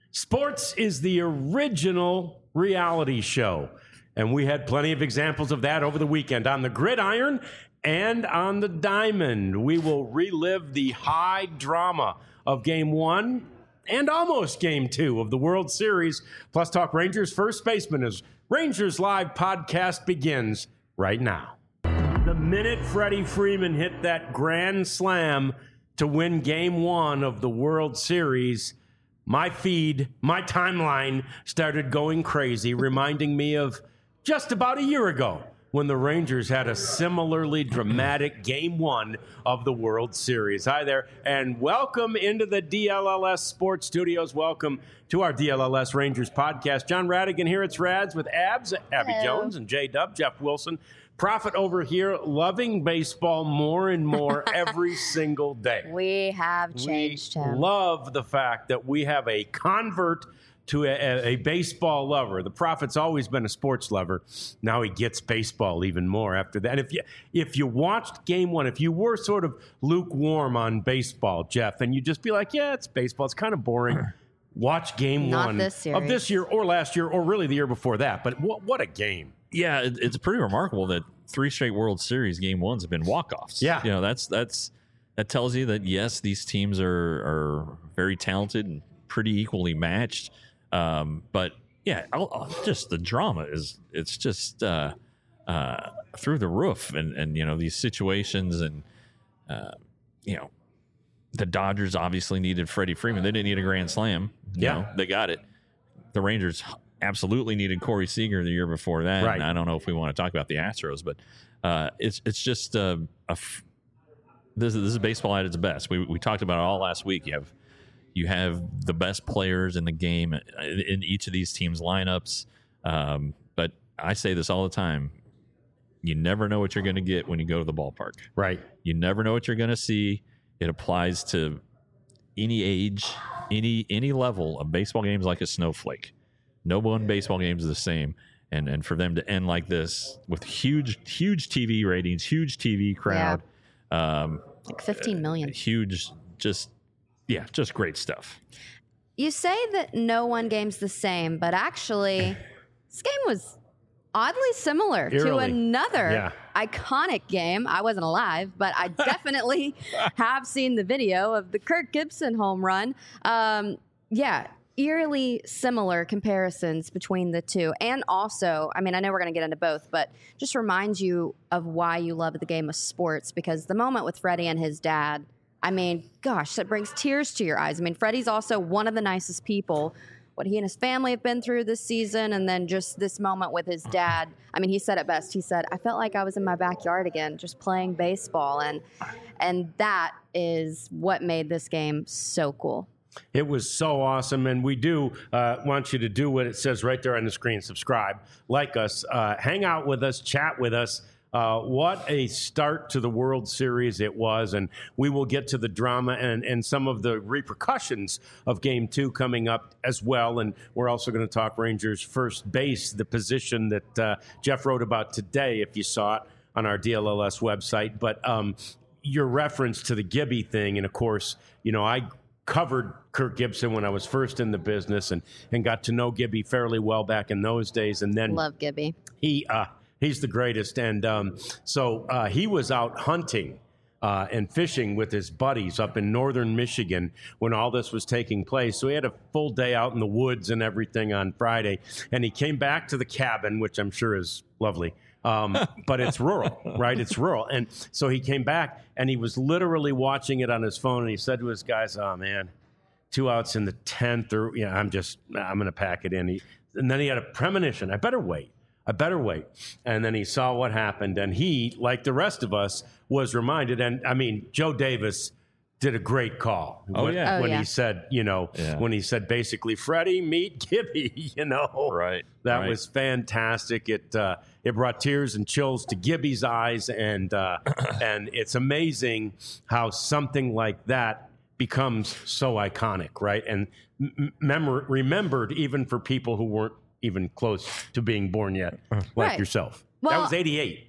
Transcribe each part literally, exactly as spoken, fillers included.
Sports is the original reality show, and we had plenty of examples of that over the weekend on the gridiron and on the diamond. We will relive the high drama of game one and almost game two of the World Series, plus talk Rangers first baseman as Rangers Live podcast begins right now. The minute Freddie Freeman hit that grand slam to win game one of the World Series, my feed, my timeline started going crazy, reminding me of just about a year ago when the Rangers had a similarly dramatic game one of the World Series. Hi there, and welcome into the D L L S Sports Studios. Welcome to our D L L S Rangers podcast. John Radigan here. It's Rads with Abs, Abby Hello. Jones, and J-Dub, Jeff Wilson. Prophet over here, loving baseball more and more every single day. We have changed we him. Love the fact that we have a convert to a, a baseball lover. The Prophet's always been a sports lover. Now he gets baseball even more after that. And if you if you watched game one, if you were sort of lukewarm on baseball, Jeff, and you just be like, yeah, it's baseball, it's kind of boring. Watch game Not one this of this year or last year or really the year before that. But what what a game. Yeah, it, it's pretty remarkable that three straight World Series game ones have been walk-offs. Yeah. You know, that's that's that tells you that, yes, these teams are, are very talented and pretty equally matched. Um, but, yeah, I'll, I'll, just the drama is it's just uh, uh, through the roof. And, and, you know, these situations and, uh, you know, the Dodgers obviously needed Freddie Freeman. They didn't need a grand slam. You Yeah. know, they got it. The Rangers absolutely needed Corey Seager the year before that. Right. And I don't know if we want to talk about the Astros, but uh, it's it's just uh, a f- this, is, this is baseball at its best. We we talked about it all last week. You have you have the best players in the game in, in each of these teams' lineups. Um, but I say this all the time. You never know what you're going to get when you go to the ballpark. Right. You never know what you're going to see. It applies to any age, any any level of baseball games like a snowflake. No one baseball game is the same. And and for them to end like this with huge, huge T V ratings, huge T V crowd. Yeah. Um, like fifteen million. Uh, huge, just, yeah, just great stuff. You say that no one game's the same, but actually, this game was oddly similar Eerily. to another Yeah. iconic game. I wasn't alive, but I definitely have seen the video of the Kirk Gibson home run. Um, yeah. Eerily similar comparisons between the two. And also, I mean, I know we're going to get into both, but just remind you of why you love the game of sports, because the moment with Freddie and his dad, I mean, gosh, that brings tears to your eyes. I mean, Freddie's also one of the nicest people. What he and his family have been through this season, and then just this moment with his dad. I mean, he said it best. He said, I felt like I was in my backyard again, just playing baseball. And, and that is what made this game so cool. It was so awesome, and we do uh, want you to do what it says right there on the screen. Subscribe, like us, uh, hang out with us, chat with us. Uh, what a start to the World Series it was, and we will get to the drama and, and some of the repercussions of Game two coming up as well, and we're also going to talk Rangers first base, the position that uh, Jeff wrote about today, if you saw it on our D L L S website. But um, your reference to the Gibby thing, and of course, you know, I covered Kirk Gibson when I was first in the business and, and got to know Gibby fairly well back in those days. And then Love Gibby. He uh, he's the greatest. And um, so uh, he was out hunting uh, and fishing with his buddies up in northern Michigan when all this was taking place. So he had a full day out in the woods and everything on Friday. And he came back to the cabin, which I'm sure is lovely. Um, but it's rural, right? It's rural. And so he came back and he was literally watching it on his phone. And he said to his guys, oh, man, two outs in the tenth, or, yeah, I'm just, I'm going to pack it in. He, and then he had a premonition. I better wait. I better wait. And then he saw what happened. And he, like the rest of us, was reminded. And I mean, Joe Davis did a great call. Oh, when, yeah. Oh, when yeah. he said, you know, Yeah. when he said basically, Freddie, meet Gibby, you know. Right. That right. was fantastic. It uh, it brought tears and chills to Gibby's eyes, and uh, and it's amazing how something like that becomes so iconic, right? And m- mem- remembered even for people who weren't even close to being born yet, like Right. yourself. Well- that was eighty-eight.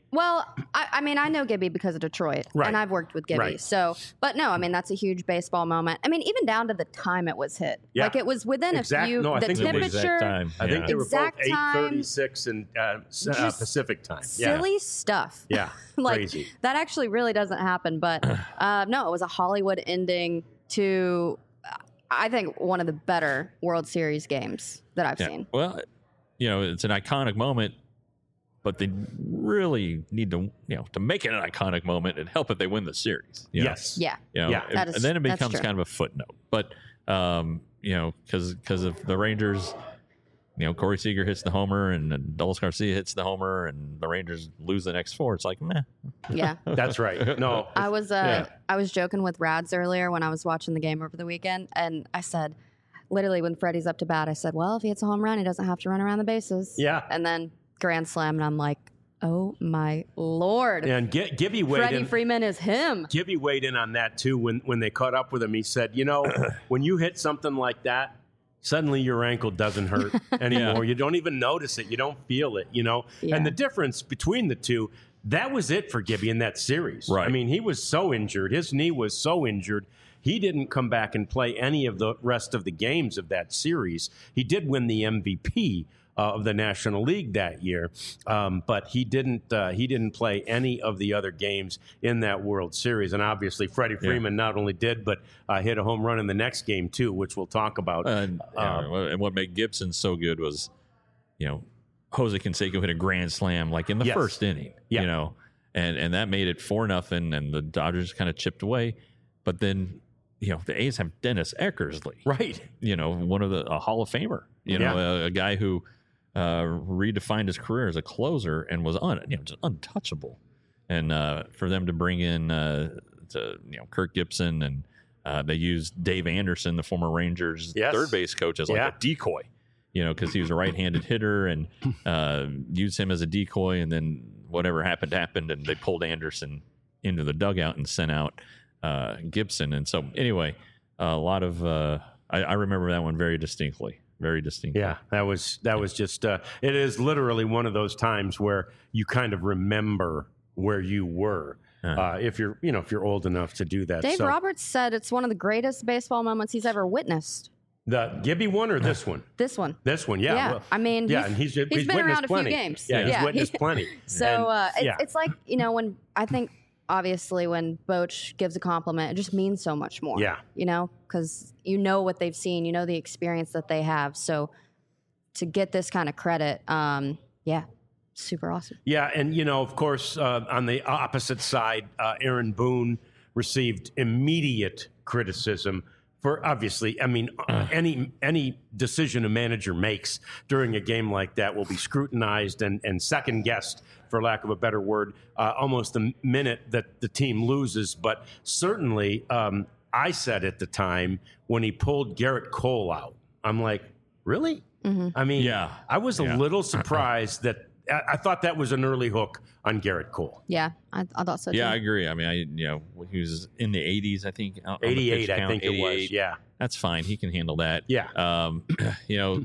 Well, I, I mean, I know Gibby because of Detroit, Right. and I've worked with Gibby. Right. So, but no, I mean, that's a huge baseball moment. I mean, even down to the time it was hit. Yeah. Like it was within Exact- a few. no, I the think it was temperature, exact time. I think Yeah. they were Exact both eight time. thirty-six and uh, s- uh, Just Pacific time. Yeah. silly stuff. Yeah. like Crazy. that actually really doesn't happen. But uh, no, it was a Hollywood ending to, uh, I think, one of the better World Series games that I've Yeah. seen. Well, you know, it's an iconic moment, but they really need to, you know, to make it an iconic moment and help if they win the series. you know? Yes. Yeah. You know, Yeah. and, That is- and then it that's becomes true. kind of a footnote. But, um, you know, because because if the Rangers, you know, Corey Seager hits the homer and then Dulles Garcia hits the homer and the Rangers lose the next four, it's like, meh. Yeah. That's right. No. I was uh, Yeah. I was joking with Rads earlier when I was watching the game over the weekend, and I said, literally when Freddie's up to bat, I said, well, if he hits a home run, he doesn't have to run around the bases. Yeah. And then grand slam, and I'm like, oh my lord, And G- Gibby weighed Freddie in. Freeman is him. Gibby weighed in on that too when when they caught up with him. He said, "You know, when you hit something like that, suddenly your ankle doesn't hurt anymore. You don't even notice it. You don't feel it. You know." Yeah. And the difference between the two, that was it for Gibby in that series. Right. I mean, he was so injured. His knee was so injured. He didn't come back and play any of the rest of the games of that series. He did win the M V P uh, of the National League that year, um, but he didn't. Uh, he didn't play any of the other games in that World Series. And obviously, Freddie Freeman not only did, but uh, hit a home run in the next game too, which we'll talk about. And, yeah, Um, and what made Gibson so good was, you know, Jose Canseco hit a grand slam like in the Yes. first inning, Yeah. you know, and, and that made it four nothing, and the Dodgers kind of chipped away. But then, you know, the A's have Dennis Eckersley, right. you know, one of the a Hall of Famer, you know, a, a guy who uh, redefined his career as a closer and was un, you know, just untouchable. And uh, for them to bring in, uh, to, you know, Kirk Gibson, and uh, they used Dave Anderson, the former Rangers Yes. third base coach, as like Yeah. a decoy, you know, because he was a right-handed hitter, and uh, used him as a decoy. And then whatever happened happened, and they pulled Anderson into the dugout and sent out uh, Gibson. And so anyway, a lot of uh, I, I remember that one very distinctly, very distinctly. Yeah, that was that was just. Uh, it is literally one of those times where you kind of remember where you were. Uh, if you're, you know, if you're old enough to do that. Dave So, Roberts said it's one of the greatest baseball moments he's ever witnessed. the Gibby one or this one? This one. This one, yeah. Yeah, well, I mean, yeah, he's- and he's he's he's been witnessed around a few plenty. games. Yeah, Yeah. he's witnessed plenty. So And, uh, it's, yeah. it's like, you know, when I think obviously when Boch gives a compliment, it just means so much more. Yeah. You know, because you know what they've seen, you know the experience that they have. So to get this kind of credit, um, yeah, super awesome. Yeah, and you know, of course, uh, on the opposite side, uh, Aaron Boone received immediate criticism for obviously. I mean, uh, any any decision a manager makes during a game like that will be scrutinized and, and second guessed, for lack of a better word, uh, almost the minute that the team loses. But certainly, um, I said at the time when he pulled Garrett Cole out, I'm like, really? I mean, Yeah. I was a Yeah. little surprised that. I I thought that was an early hook on Garrett Cole. Yeah, I, I thought so too. Yeah, I agree. I mean, I you know he was in the eighties, I think. on the pitch eighty-eight, I count, think it was. eighty-eight. Yeah. That's fine. He can handle that. Yeah. Um, you know,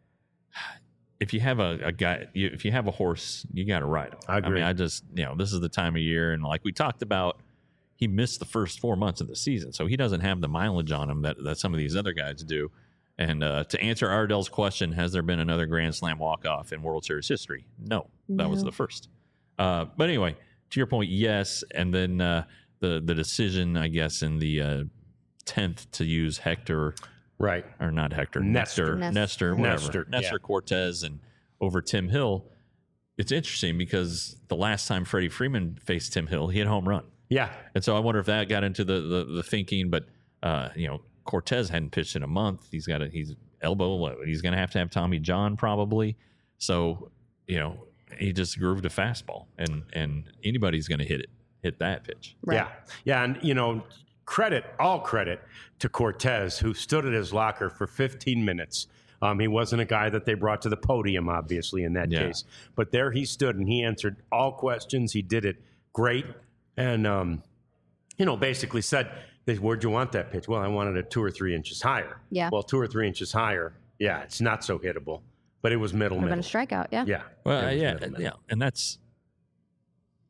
if you have a, a guy, you, if you have a horse, you got to ride him. I agree. mean, I just, you know, this is the time of year, and like we talked about, he missed the first four months of the season, so he doesn't have the mileage on him that that some of these other guys do. And uh, to answer Ardell's question, has there been another Grand Slam walk-off in World Series history? No, that was No. the first. Uh, but anyway, to your point, yes. And then uh, the the decision, I guess, in the uh, tenth to use Hector, Right. or not Hector, Nestor. Nestor, Nestor. Nestor, whatever, Nestor, Nestor, yeah. Cortez, and over Tim Hill. It's interesting because the last time Freddie Freeman faced Tim Hill, he had a home run. Yeah. And so I wonder if that got into the the, the thinking. But uh, you know, Cortez hadn't pitched in a month. He's got a he's elbow. He's going to have to have Tommy John probably. So you know, he just grooved a fastball, and and anybody's going to hit it, hit that pitch. Right. Yeah. Yeah. And, you know, credit, all credit to Cortez, who stood at his locker for fifteen minutes. Um, he wasn't a guy that they brought to the podium, obviously, in that Yeah. case. But there he stood, and he answered all questions. He did it great. And, um, you know, basically said, where'd you want that pitch? Well, I wanted it two or three inches higher. Yeah. Well, two or three inches higher, yeah, it's not so hittable. But it was middle, Would have been middle. a strikeout. Yeah. Yeah. Well, It was yeah, middle, middle. yeah, and that's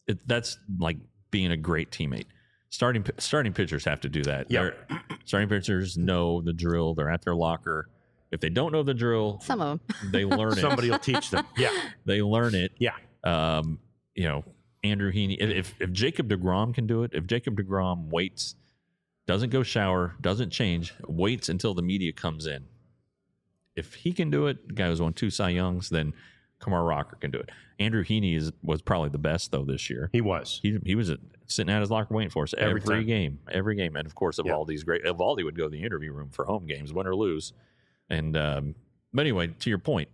it, that's like being a great teammate. Starting starting pitchers have to do that. Yep. They're- Starting pitchers know the drill. They're at their locker. If they don't know the drill, Some of them. they learn it. Somebody will teach them. Yeah. They learn it. Yeah. Um, you know, Andrew Heaney. If if Jacob deGrom can do it, if Jacob deGrom waits, doesn't go shower, doesn't change, waits until the media comes in. If he can do it, the guy who's won two Cy Youngs, then Kumar Rocker can do it. Andrew Heaney is was probably the best though this year. He was. He he was sitting at his locker waiting for us every, Every time. game, every game, and of course, Yep. Evaldi's great. Evaldi would go to the interview room for home games, win or lose. And um, but anyway, to your point,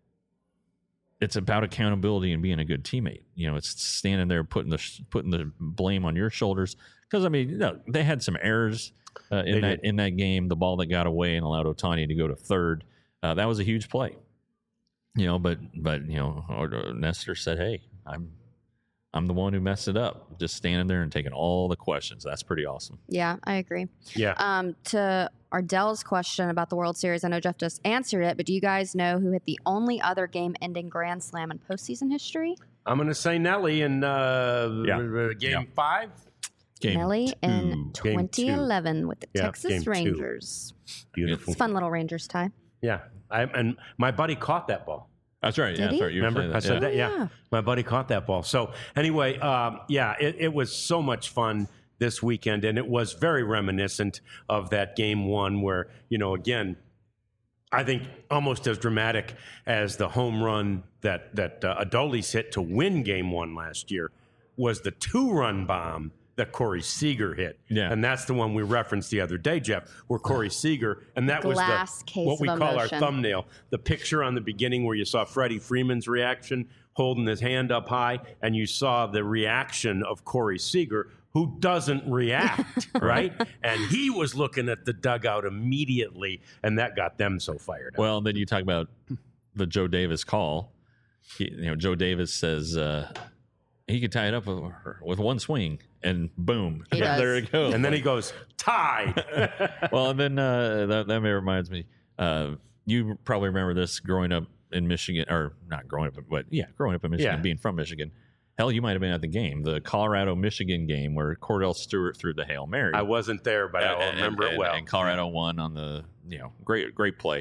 it's about accountability and being a good teammate. You know, it's standing there putting the putting the blame on your shoulders because I mean, you know, they had some errors uh, in They that did. in that game. The ball that got away and allowed Ohtani to go to third, uh, that was a huge play. You know, but but you know, or- Nestor said, "Hey, I'm I'm the one who messed it up." Just standing there and taking all the questions. That's pretty awesome. Yeah, I agree. Yeah. Um, to Ardell's question about the World Series, I know Jeff just answered it, but do you guys know who hit the only other game-ending grand slam in postseason history? I'm going to say Nelly in uh, Yeah. uh, game Yeah. five. Game Nelly in two. Game twenty eleven with the Yeah, game Texas two. Rangers. Beautiful. It's a fun little Rangers tie. Yeah. I, and my buddy caught that ball. That's right. Did Yeah, that's he? right. You were Remember? saying I said yeah. that. Yeah. Yeah. My buddy caught that ball. So anyway, um, yeah, it, it was so much fun this weekend, and it was very reminiscent of that game one where, you know, again, I think almost as dramatic as the home run that that uh, Adolis hit to win game one last year was the two-run bomb that Corey Seager hit. Yeah. And that's the one we referenced the other day, Jeff, where Corey Seager, and that Glass was the, case what we of call emotion. our thumbnail, the picture on the beginning where you saw Freddie Freeman's reaction, holding his hand up high, and you saw the reaction of Corey Seager, who doesn't react, right? And he was looking at the dugout immediately, and that got them so fired up. Well, then you talk about the Joe Davis call. He, you know, Joe Davis says uh, he could tie it up with, with one swing, and boom, He does. there it goes. And then he goes, tied. well, and then uh, that that reminds me. Uh, you probably remember this growing up in Michigan, or not growing up, but yeah, growing up in Michigan, Yeah. being from Michigan. Hell, you might have been at the game, the Colorado Michigan game where Cordell Stewart threw the Hail Mary. I wasn't there, but I And- remember and- it well. And Colorado won on the, you know, great, great play.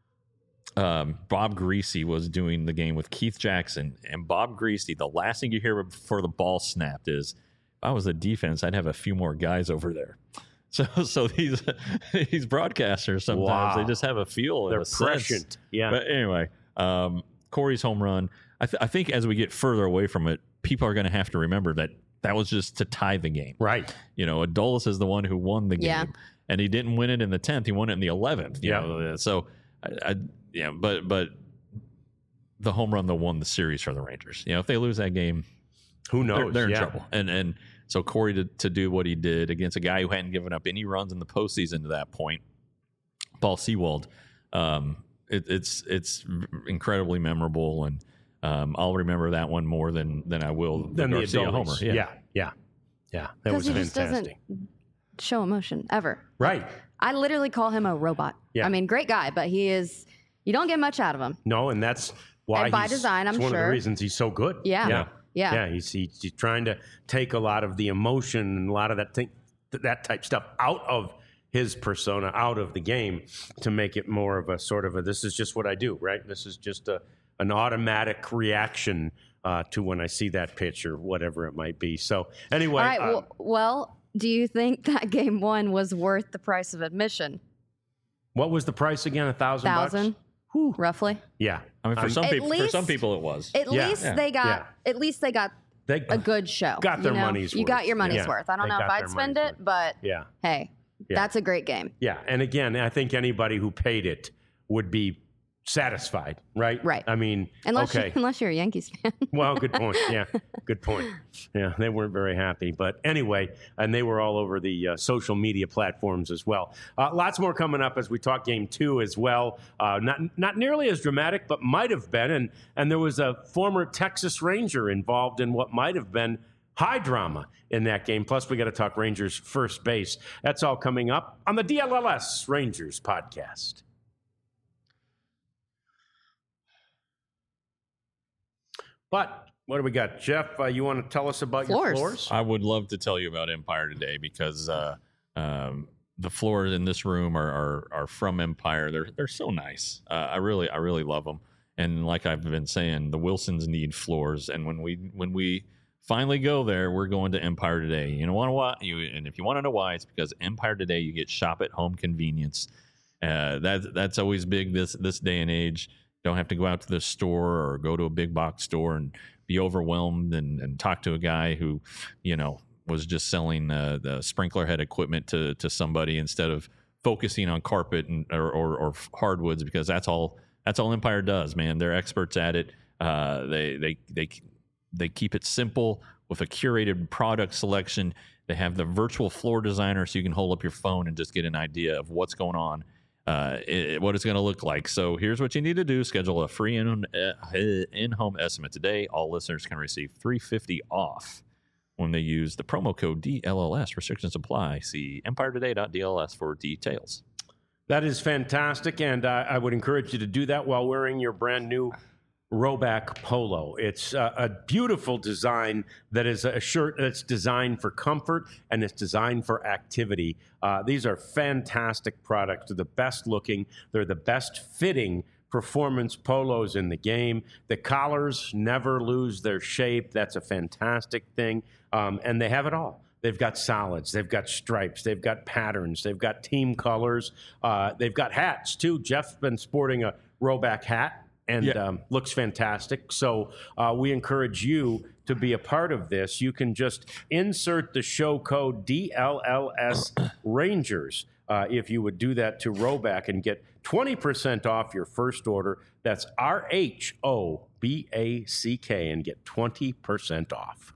Um, Bob Greasy was doing the game with Keith Jackson, and Bob Greasy, the last thing you hear before the ball snapped is, if I was a defense, I'd have a few more guys over there. So, so these these broadcasters sometimes Wow. they just have a feel, They're and a sense. prescient. Yeah. But anyway, um, Corey's home run. I, th- I think as we get further away from it, people are going to have to remember that that was just to tie the game. Right. You know, Adolis is the one who won the game, Yeah. and he didn't win it in the tenth. He won it in the eleventh. You Yeah. know? So, I, I, yeah, but but the home run that won the series for the Rangers. You know, if they lose that game, Who they're, knows? they're in Yeah. trouble. And and so Corey to, to do what he did against a guy who hadn't given up any runs in the postseason to that point, Paul Sewald. Um, it, it's it's incredibly memorable, and um, I'll remember that one more than than I will the Then the Garcia Adolis. homer. Yeah. yeah. Yeah. That Because was he just fantastic. doesn't show emotion ever. Right. I literally call him a robot. Yeah. I mean, great guy, but he is, you don't get much out of him. No, and that's why And by he's, design, I'm it's one of sure. the reasons he's so good. Yeah. Yeah. Yeah. Yeah, he's, he's he's trying to take a lot of the emotion and a lot of that thing, that type stuff out of his persona, out of the game, to make it more of a sort of a, this is just what I do, right? This is just a an automatic reaction uh, to when I see that pitch or whatever it might be. So anyway, All right. uh, Well, well, do you think that game one was worth the price of admission? what was the price again? A thousand bucks? Thousand, roughly. Yeah, I mean, for I'm- some At people, for least- some people, it was. At Yeah. least Yeah. they got. Yeah. At least they got they a good show. Got their you know? money's You worth. got your money's Yeah. worth. I don't They know if got I'd their spend money's it, but yeah. hey, Yeah. that's a great game. Yeah, and again, I think anybody who paid it would be satisfied, right? Right. I mean, Unless okay. you, unless you're a Yankees fan. Well, good point. Yeah, good point. Yeah, they weren't very happy, but anyway, and they were all over the uh, social media platforms as well. Uh, lots more coming up as we talk game two as well. Uh, not not nearly as dramatic, but might have been, and and there was a former Texas Ranger involved in what might have been high drama in that game. Plus, we got to talk Rangers first base. That's all coming up on the D L L S Rangers podcast. But What do we got, Jeff? Uh, you want to tell us about Floors. your floors? I would love to tell you about Empire today because uh, um, the floors in this room are, are are from Empire. They're they're so nice. Uh, I really I really love them. And like I've been saying, the Wilsons need floors. And when we when we finally go there, we're going to Empire Today. You know why? You and if you want to know why, it's because Empire Today you get shop at home convenience. Uh, that that's always big this this day and age. Don't have to go out to the store or go to a big box store and be overwhelmed and, and talk to a guy who, you know, was just selling uh, the sprinkler head equipment to to somebody instead of focusing on carpet and or, or, or hardwoods, because that's all that's all Empire does, man. They're experts at it. Uh, they they they they keep it simple with a curated product selection. They have the virtual floor designer, so you can hold up your phone and just get an idea of what's going on. Uh, it, what it's going to look like. So here's what you need to do. Schedule a free in, uh, in-home estimate today. All listeners can receive three hundred fifty dollars off when they use the promo code D L L S. Restrictions apply. See empire today dot D L S for details. That is fantastic, and uh, I would encourage you to do that while wearing your brand new Roback Polo. It's uh, a beautiful design that is a shirt that's designed for comfort and it's designed for activity. Uh, these are fantastic products. They're the best looking. They're the best fitting performance polos in the game. The collars never lose their shape. That's a fantastic thing. Um, and they have it all. They've got solids. They've got stripes. They've got patterns. They've got team colors. Uh, they've got hats, too. Jeff's been sporting a Roback hat. And yeah. um, looks fantastic. So uh, we encourage you to be a part of this. You can just insert the show code D L L S Rangers uh, if you would do that to Roback and get twenty percent off your first order. That's R H O B A C K and get twenty percent off.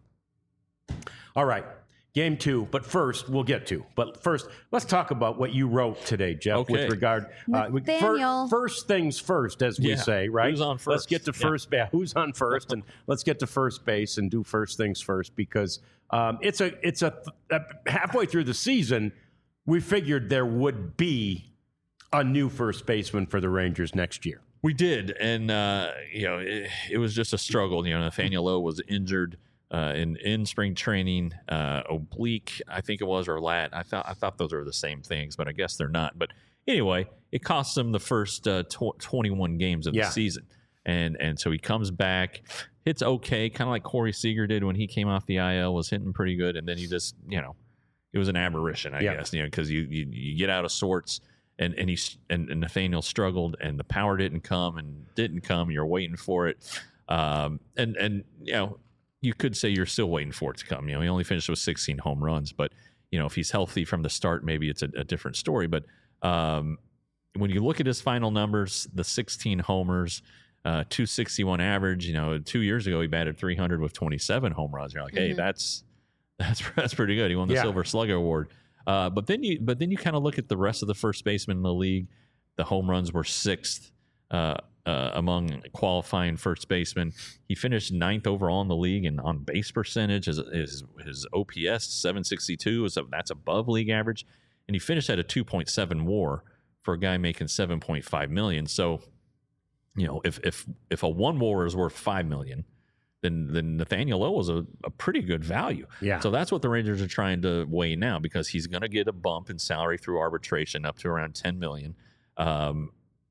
All right. Game two, but first, we'll get to. But first, let's talk about what you wrote today, Jeff, okay. with regard. Uh, Nathaniel. Fir- first things first, as we yeah. say, right? Who's on first? Let's get to yeah. first base. Who's on first? And let's get to first base and do first things first, because um, it's a it's a, a halfway through the season, we figured there would be a new first baseman for the Rangers next year. We did, and uh, you know, it, it was just a struggle. You know, Nathaniel Lowe was injured. Uh, in in spring training, uh, oblique, I think it was, or lat. I thought I thought those are the same things, but I guess they're not. But anyway, it cost him the first uh, tw- twenty-one games of yeah. the season, and and so he comes back, hits okay, kind of like Corey Seager did when he came off the I L, was hitting pretty good, and then he just, you know, it was an aberration, I yeah. guess, you know, because you, you you get out of sorts, and and he and, and Nathaniel struggled, and the power didn't come, and didn't come. You're waiting for it, um, and and you know. You could say you're still waiting for it to come. You know, he only finished with sixteen home runs, but you know, if he's healthy from the start, maybe it's a, a different story. But um, when you look at his final numbers, the sixteen homers, uh, two sixty-one average. You know, two years ago he batted three hundred with twenty-seven home runs. You're like, mm-hmm. hey, that's that's that's pretty good. He won the yeah. Silver Slugger Award. Uh, but then you but then you kind of look at the rest of the first basemen in the league. The home runs were sixth. Uh, Uh, among qualifying first basemen. He finished ninth overall in the league and on base percentage. His his, his O P S seven sixty-two is a, that's above league average, and he finished at a two point seven WAR for a guy making seven point five million. So, you know, if if if a one WAR is worth five million, then then Nathaniel Lowe is a, a pretty good value. Yeah. So that's what the Rangers are trying to weigh now, because he's going to get a bump in salary through arbitration up to around ten million. Um,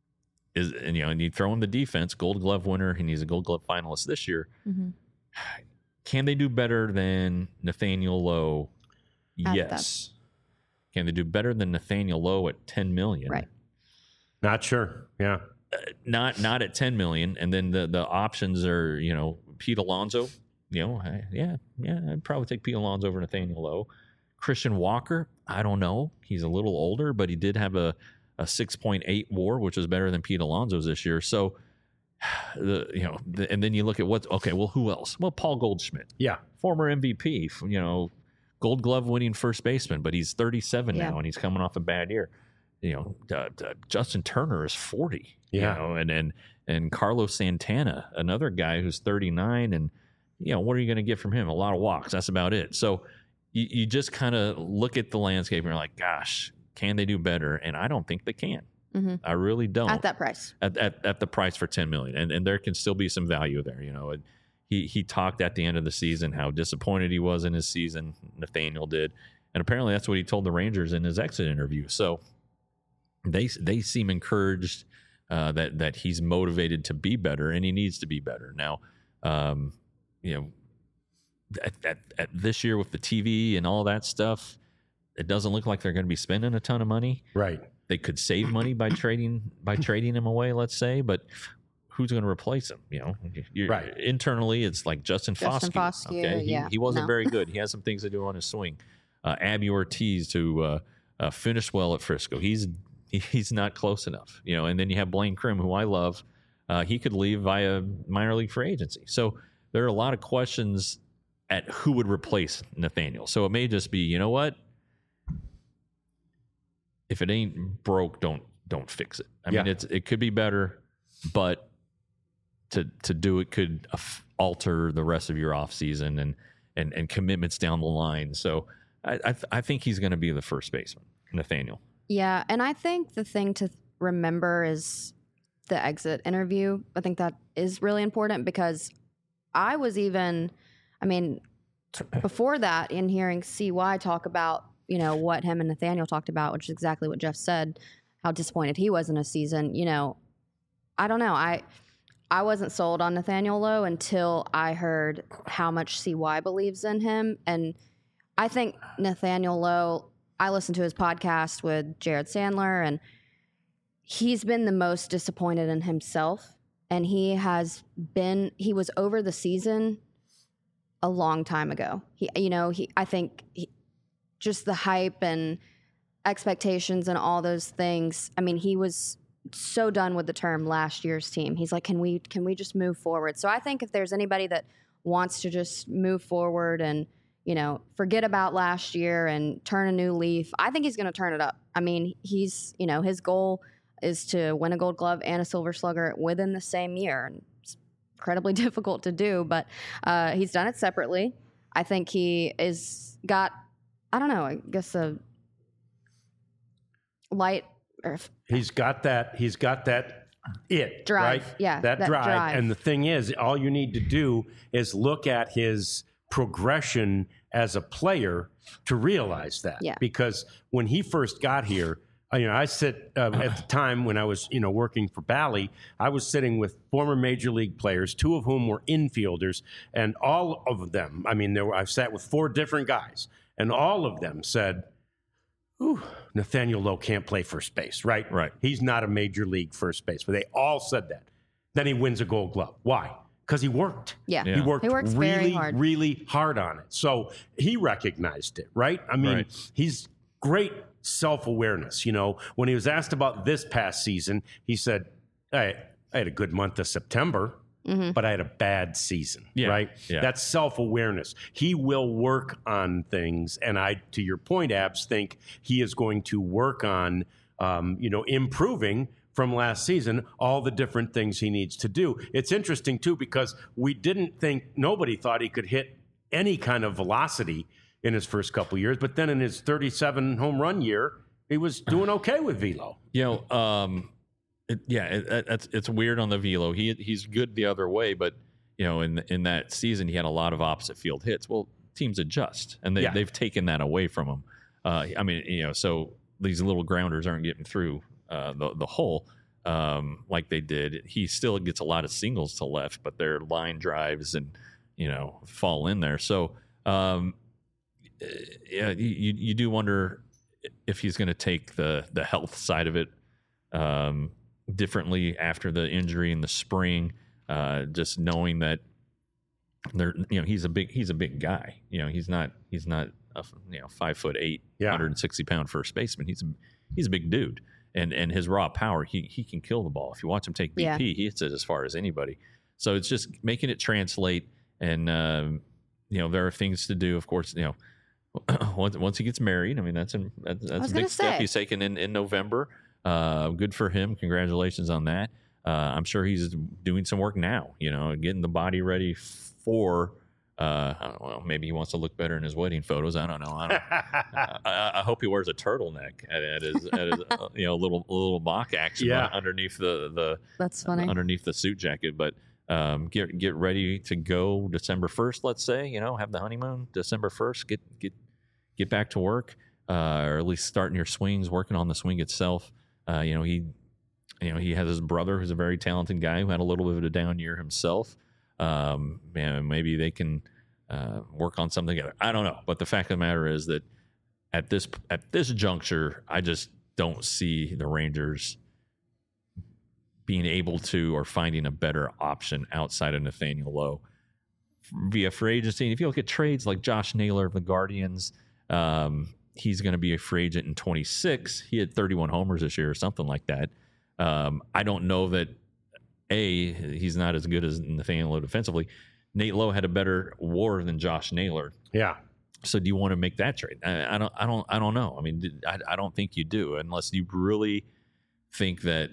Is and you know, and you throw in the defense, Gold Glove winner, and he's a Gold Glove finalist this year. Mm-hmm. Can they do better than Nathaniel Lowe? At Yes. that. Can they do better than Nathaniel Lowe at ten million? Right. Not sure. Yeah. Uh, not not at ten million, and then the the options are, you know, Pete Alonso. You know, I, yeah, yeah, I'd probably take Pete Alonso over Nathaniel Lowe. Christian Walker, I don't know. He's a little older, but he did have a a six point eight WAR, which is better than Pete Alonso's this year. So, the you know, the, and then you look at what, okay, well, who else? Well, Paul Goldschmidt. Yeah. Former M V P, you know, Gold Glove winning first baseman, but he's thirty-seven yeah. now, and he's coming off a bad year. You know, uh, uh, Justin Turner is forty. Yeah. You know, and, and, and Carlos Santana, another guy who's thirty-nine, and, you know, what are you going to get from him? A lot of walks. That's about it. So you, you just kind of look at the landscape and you're like, gosh, can they do better? And I don't think they can. Mm-hmm. I really don't. At that price. At, at at the price for ten million dollars. And and there can still be some value there. You know, he he talked at the end of the season how disappointed he was in his season. Nathaniel did, and apparently that's what he told the Rangers in his exit interview. So they they seem encouraged uh, that that he's motivated to be better, and he needs to be better. Now, um, you know, at, at, at this year with the T V and all that stuff, it doesn't look like they're going to be spending a ton of money. Right. They could save money by trading by trading him away, let's say, but who's going to replace him? You know, You're, Right. Internally, it's like Justin, Justin Foscue. Foscue, Okay, he, yeah, he wasn't no. very good. He has some things to do on his swing. Uh, Abby Ortiz, who uh, uh, finished well at Frisco, he's he, he's not close enough. You know, and then you have Blaine Crim, who I love. Uh, he could leave via minor league free agency. So there are a lot of questions at who would replace Nathaniel. So it may just be, you know what? If it ain't broke, don't don't fix it. I Yeah. mean, it's it could be better, but to to do it could af- alter the rest of your offseason and and and commitments down the line. So I I, th- I think he's going to be the first baseman, Nathaniel. Yeah, and I think the thing to remember is the exit interview. I think that is really important because I was even, I mean, t- before that, in hearing C Y talk about, you know, what him and Nathaniel talked about, which is exactly what Jeff said, how disappointed he was in a season. You know, I don't know. I I wasn't sold on Nathaniel Lowe until I heard how much C Y believes in him. And I think Nathaniel Lowe, I listened to his podcast with Jared Sandler, and he's been the most disappointed in himself. And he has been, he was over the season a long time ago. He, you know, he, I think he, just the hype and expectations and all those things. I mean, he was so done with the term last year's team. He's like, can we, can we just move forward? So I think if there's anybody that wants to just move forward and, you know, forget about last year and turn a new leaf, I think he's going to turn it up. I mean, he's, you know, his goal is to win a Gold Glove and a Silver Slugger within the same year. And it's incredibly difficult to do, but uh, he's done it separately. I think he is got, I don't know, I guess a light. Or He's got that. He's got that it Drive, right? yeah, that, that drive. drive. And the thing is, all you need to do is look at his progression as a player to realize that. Yeah. Because when he first got here, uh, you know, I sit uh, at the time when I was, you know, working for Bally, I was sitting with former major league players, two of whom were infielders, and all of them. I mean, there were, I sat with four different guys, and all of them said, "Ooh, Nathaniel Lowe can't play first base, right? Right. He's not a major league first base." But they all said that. Then he wins a Gold Glove. Why? Because he worked. yeah. Yeah. He worked He works really, very hard. really hard on it. So he recognized it, right? I mean, Right. he's great self-awareness. You know, when he was asked about this past season, he said, I, I had a good month of September, Mm-hmm. but I had a bad season, Yeah. right? Yeah. That's self-awareness. He will work on things. And I, to your point, Abs, think he is going to work on, um, you know, improving from last season, all the different things he needs to do. It's interesting, too, because we didn't think, nobody thought he could hit any kind of velocity in his first couple years. But then in his thirty-seven home run year, he was doing okay with velo. You know, um, it, yeah, it, it, it's it's weird on the velo. He he's good the other way, but you know, in in that season, he had a lot of opposite field hits. Well, teams adjust, and they Yeah. they've taken that away from him. Uh, I mean, you know, so these little grounders aren't getting through uh, the the hole um, like they did. He still gets a lot of singles to left, but they're line drives and you know fall in there. So um, yeah, you you do wonder if he's going to take the the health side of it um, differently after the injury in the spring. Uh, just knowing that there, you know, he's a big he's a big guy. You know, he's not he's not a you know five foot eight, Yeah. one hundred sixty pound first baseman. He's a he's a big dude, and and his raw power, he he can kill the ball. If you watch him take B P, Yeah. he hits it as far as anybody. So it's just making it translate, and um, you know, there are things to do. Of course, you know. Once, once he gets married, I mean that's a, that's, that's was a big gonna step say. he's taken in, in November. Uh, good for him. Congratulations on that. Uh, I'm sure he's doing some work now. You know, getting the body ready for. Uh, I don't know. Maybe he wants to look better in his wedding photos. I don't know. I, don't, I, I hope he wears a turtleneck at, at his, at his uh, you know little little mock action Yeah. underneath the the That's funny. underneath the suit jacket. But um, get get ready to go December first. Let's say, you know, have the honeymoon December first. Get get get back to work, uh, or at least starting your swings, working on the swing itself. Uh, you know, he you know he has his brother who's a very talented guy who had a little bit of a down year himself. Um, and maybe they can uh, work on something together. I don't know, but the fact of the matter is that at this at this juncture, I just don't see the Rangers being able to or finding a better option outside of Nathaniel Lowe via free agency. And if you look at trades like Josh Naylor of the Guardians, um, he's going to be a free agent in twenty-six. He had thirty-one homers this year or something like that. Um, I don't know that. A, he's not as good as Nathaniel Lowe defensively. Nate Lowe had a better WAR than Josh Naylor. Yeah. So do you want to make that trade? I, I don't. I don't. I don't know. I mean, I, I don't think you do, unless you really think that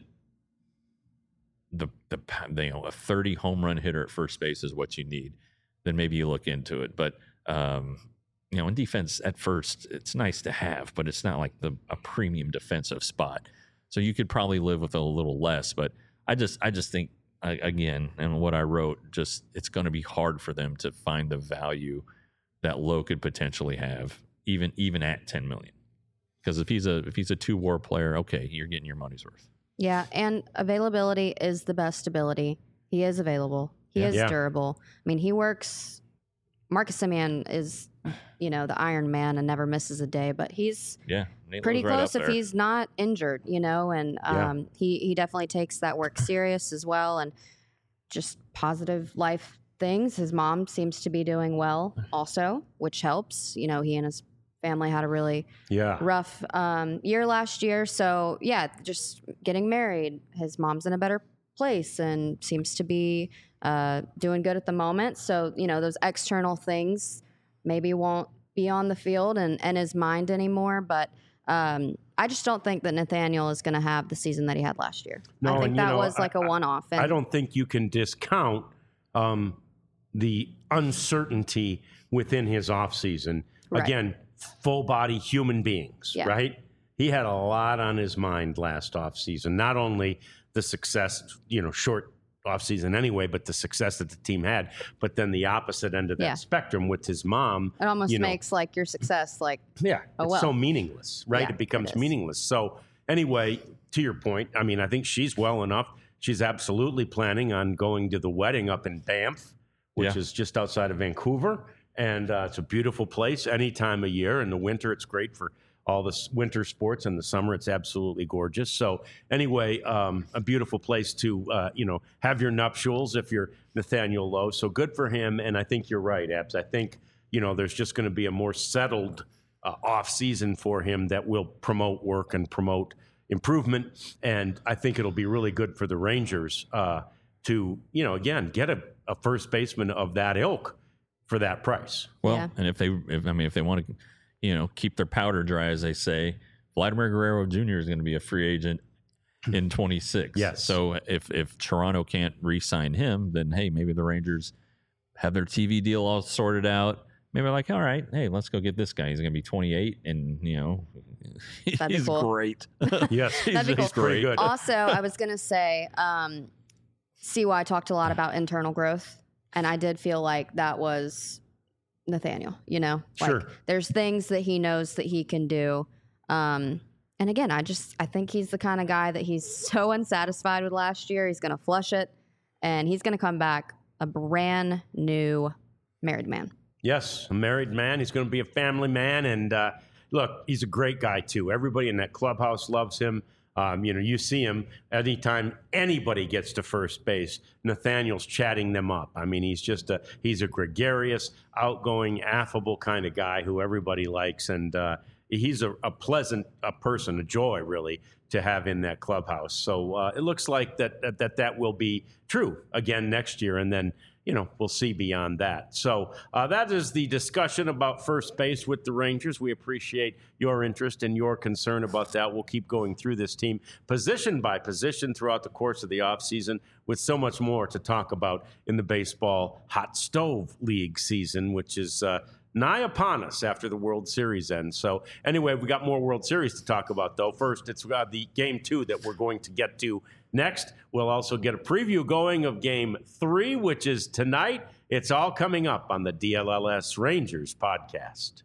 the the you know a thirty home run hitter at first base is what you need. Then maybe you look into it. But um, you know, in defense at first, it's nice to have, but it's not like the a premium defensive spot. So you could probably live with a little less, but. I just, I just think again, and what I wrote, just it's going to be hard for them to find the value that Lowe could potentially have, even even at ten million. Because if he's a if he's a two WAR player, okay, you're getting your money's worth. Yeah, and availability is the best ability. He is available. He Yeah. is Yeah. durable. I mean, he works. Marcus Semien is, you know, the Iron Man and never misses a day, but he's Yeah, Nate pretty Lowe's right close up if there. he's not injured, you know, and Yeah. um, he, he definitely takes that work serious as well, and just positive life things. His mom seems to be doing well also, which helps. You know, he and his family had a really Yeah. rough um, year last year. So, yeah, just getting married. His mom's in a better place and seems to be uh, doing good at the moment. So, you know, those external things maybe won't be on the field and, and his mind anymore. But um, I just don't think that Nathaniel is going to have the season that he had last year. No, I think and, you that know, was like a I- I- one-off. And I don't think you can discount um, the uncertainty within his offseason. Right. Again, full body human beings, Yeah. right? He had a lot on his mind last offseason. Not only the success, you know, short offseason anyway, but the success that the team had, but then the opposite end of that Yeah. spectrum with his mom. it almost you know, makes like your success like, Yeah, Oh, it's well. so meaningless, right? Yeah, it becomes it is. meaningless. So anyway, to your point, I mean, I think she's well enough. She's absolutely planning on going to the wedding up in Banff, which Yeah. is just outside of Vancouver. And uh, it's a beautiful place any time of year. In the winter, it's great for all the s- winter sports. In the summer, it's absolutely gorgeous. So anyway, um, a beautiful place to, uh, you know, have your nuptials if you're Nathaniel Lowe. So good for him. And I think you're right, Abs. I think, you know, there's just going to be a more settled uh, off season for him that will promote work and promote improvement. And I think it'll be really good for the Rangers uh, to, you know, again, get a, a first baseman of that ilk for that price. Well, Yeah. and if they, if, I mean, if they want to, you know, keep their powder dry, as they say, Vladimir Guerrero Junior is going to be a free agent in twenty-six. Yes. So if if Toronto can't re-sign him, then hey, maybe the Rangers have their T V deal all sorted out. Maybe they're like, all right, hey, let's go get this guy. He's going to be twenty-eight, and you know, That'd be he's cool. great. Yes, he's, That'd be he's cool. pretty great. good. Also, I was going to say, um, C Y talked a lot about internal growth, and I did feel like that was Nathaniel, you know? Like, Sure. there's things that he knows that he can do. Um, and again, I just, I think he's the kind of guy that he's so unsatisfied with last year. He's going to flush it, and he's going to come back a brand new married man. Yes, a married man. He's going to be a family man. And uh, look, he's a great guy, too. Everybody in that clubhouse loves him. Um, you know, you see him anytime anybody gets to first base, Nathaniel's chatting them up. I mean, he's just a, he's a gregarious, outgoing, affable kind of guy who everybody likes. And uh, he's a, a pleasant a person, a joy, really, to have in that clubhouse. So uh, it looks like that, that, that that will be true again next year. And then, you know, we'll see beyond that. So uh, that is the discussion about first base with the Rangers. We appreciate your interest and your concern about that. We'll keep going through this team position by position throughout the course of the offseason with so much more to talk about in the baseball hot stove league season, which is uh, nigh upon us after the World Series ends. So anyway, we got more World Series to talk about, though. First, it's uh, the game two that we're going to get to Next, we'll also get a preview going of game three, which is tonight. It's all coming up on the D L L S Rangers podcast.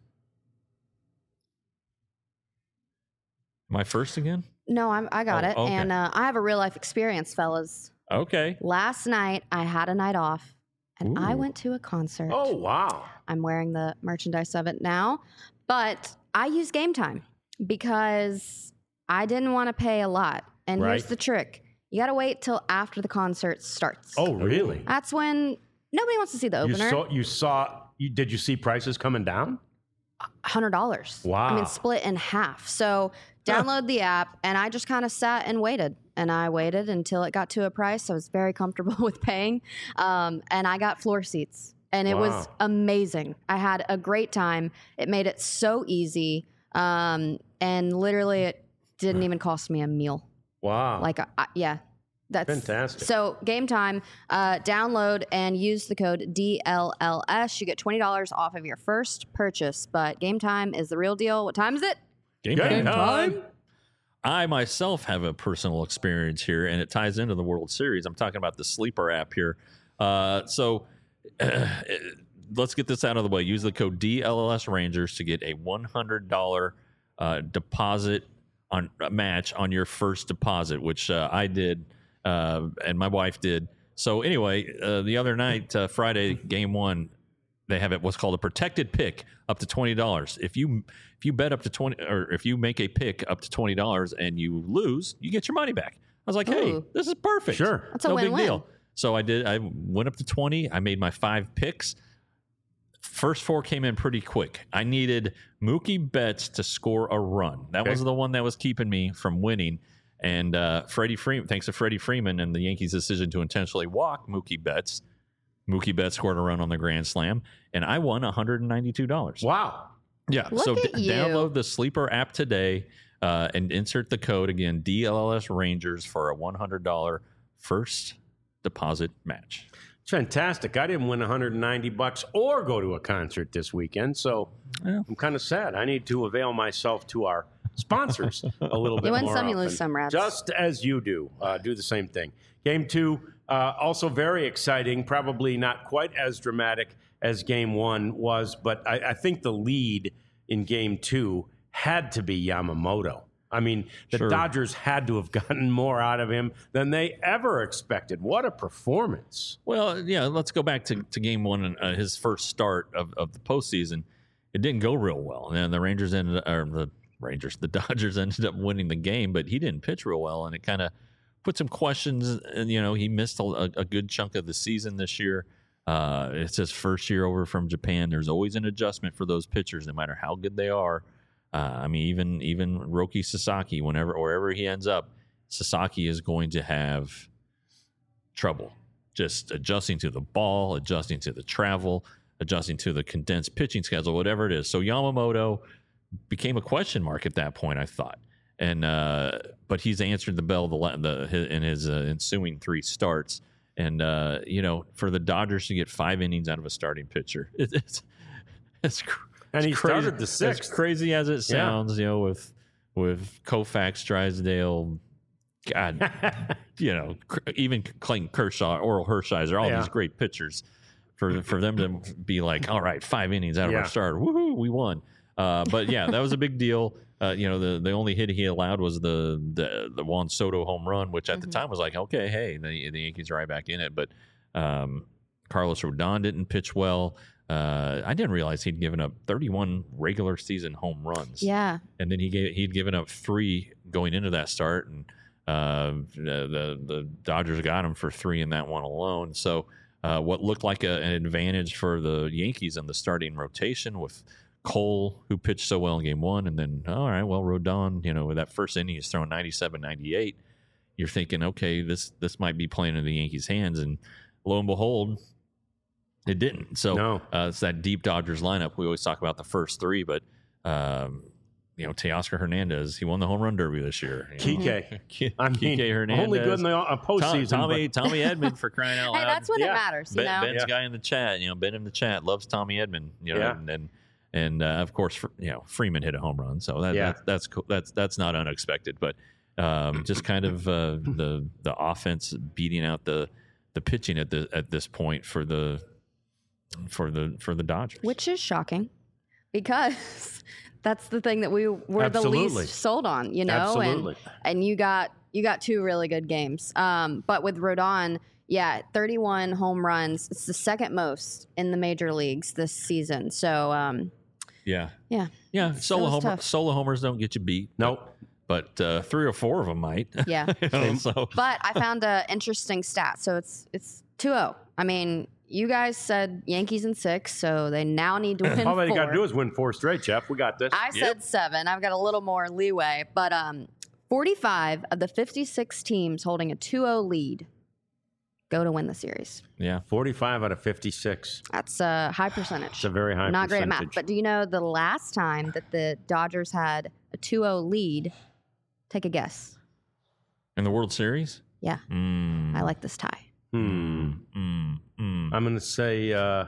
Am I first again? No, I'm, I got Oh, it. okay. And uh, I have a real life experience, fellas. Okay. Last night, I had a night off, and I Ooh. went to a concert. Oh, wow. I'm wearing the merchandise of it now. But I use Game Time because I didn't want to pay a lot. And Right. here's the trick. You got to wait till after the concert starts. Oh, really? That's when nobody wants to see the You opener. saw, you saw, you, did you see prices coming down? one hundred dollars. Wow. I mean, split in half. So download the app, and I just kind of sat and waited. And I waited until it got to a price I was very comfortable with paying. Um, and I got floor seats. And it was Wow. amazing. I had a great time. It made it so easy. Um, and literally, it didn't even cost me a meal. Wow. Like, I, yeah. That's Fantastic. So, Game Time, uh, download and use the code D L L S. You get twenty dollars off of your first purchase. But Game Time is the real deal. What time is it? Game Game time. time. I myself have a personal experience here, and it ties into the World Series. I'm talking about the Sleeper app here. Uh, so uh, let's get this out of the way. Use the code D L L S Rangers to get a one hundred dollars uh, deposit on a match on your first deposit, which uh, I did uh, and my wife did. So anyway, uh, the other night, uh, Friday, game one, they have it what's called a protected pick up to twenty dollars. If you if you bet up to twenty, or if you make a pick up to twenty dollars and you lose, you get your money back. I was like, hey, Ooh. this is perfect. Sure. That's a no win-win. big deal. So I did. I went up to twenty. I made my five picks. First four came in pretty quick. I needed Mookie Betts to score a run. That Okay. was the one that was keeping me from winning. And uh, Freddie Freeman, thanks to Freddie Freeman and the Yankees' decision to intentionally walk Mookie Betts, Mookie Betts scored a run on the Grand Slam, and I won one hundred ninety-two dollars. Wow. Yeah. Look so at d- you. download the Sleeper app today uh, and insert the code again, D L L S Rangers, for a one hundred dollars first deposit match. It's fantastic. I didn't win one hundred ninety bucks or go to a concert this weekend, so Yeah. I'm kind of sad. I need to avail myself to our sponsors a little bit You win more some, you often. lose some, Rats. Just as you do. Uh, do the same thing. Game two, uh, also very exciting, probably not quite as dramatic as game one was, but I, I think the lead in game two had to be Yamamoto. I mean, the Sure. Dodgers had to have gotten more out of him than they ever expected. What a performance. Well, yeah, let's go back to, to game one and uh, his first start of, of the postseason. It didn't go real well. And the Rangers ended or the Rangers, the Dodgers ended up winning the game, but he didn't pitch real well. And it kind of put some questions. And, you know, he missed a, a good chunk of the season this year. Uh, it's his first year over from Japan. There's always an adjustment for those pitchers, no matter how good they are. Uh, I mean, even even Roki Sasaki, whenever wherever he ends up, Sasaki is going to have trouble just adjusting to the ball, adjusting to the travel, adjusting to the condensed pitching schedule, whatever it is. So Yamamoto became a question mark at that point, I thought, and uh, but he's answered the bell the, the his, in his uh, ensuing three starts, and uh, you know, for the Dodgers to get five innings out of a starting pitcher, it, it's it's. Cr- And he it's crazy. started the sixth. As crazy as it sounds, you know, with with Koufax, Drysdale, God, you know, cr- even Clayton Kershaw, Oral Hershiser, all Yeah. these great pitchers, for for them to be like, all right, five innings out of Yeah. our starter, woohoo, we won. Uh, but yeah, that was a big deal. Uh, you know, the the only hit he allowed was the the, the Juan Soto home run, which at Mhm. the time was like, okay, hey, the the Yankees are right back in it. But um, Carlos Rodon didn't pitch well. Uh, I didn't realize he'd given up thirty-one regular season home runs. Yeah. And then he gave he'd given up three going into that start, and uh, the, the the Dodgers got him for three in that one alone. So uh, what looked like a, an advantage for the Yankees in the starting rotation with Cole, who pitched so well in game one, and then all right, well, Rodon, you know, with that first inning he's throwing ninety-seven, ninety-eight. You're thinking, okay, this this might be playing in the Yankees' hands, and lo and behold, it didn't. So No. uh, it's that deep Dodgers lineup. We always talk about the first three, but um, you know, Teoscar Hernandez, he won the home run derby this year. You know? Kike. Kike I mean, Hernandez, only good in the uh, Tom, postseason. Tommy but- Tommy Edmond for crying out loud. Hey, that's when Yeah. it matters, you Ben, know? Ben's Yeah. guy in the chat, you know, Ben in the chat loves Tommy Edmond, you know, Yeah. and and, and uh, of course, you know, Freeman hit a home run, so that, Yeah. that's that's cool. That's that's not unexpected. But Um, just kind of uh, the the offense beating out the the pitching at the at this point for the for the for the Dodgers, which is shocking because that's the thing that we were Absolutely. the least sold on, you know. Absolutely. And, and you got you got two really good games. Um, but with Rodon, yeah, thirty-one home runs. It's the second most in the major leagues this season. So um, yeah, yeah, yeah. Solo was homer, tough. solo homers don't get you beat. Nope. But uh, three or four of them might. Yeah. You know, so But I found an interesting stat. So it's it's two oh. I mean, you guys said Yankees in six, so they now need to win All they four. got to do is win four straight, Jeff. We got this. I said Yep. seven. I've got a little more leeway. But um, forty-five of the fifty-six teams holding a two oh lead go to win the series. yeah, forty-five out of fifty-six. That's a high percentage. It's a very high Not great at percentage. math. But do you know the last time that the Dodgers had a two oh lead? Take a guess. in the World Series. Yeah, Mm, I like this tie. Hmm. mm, mm. I'm going to say, uh,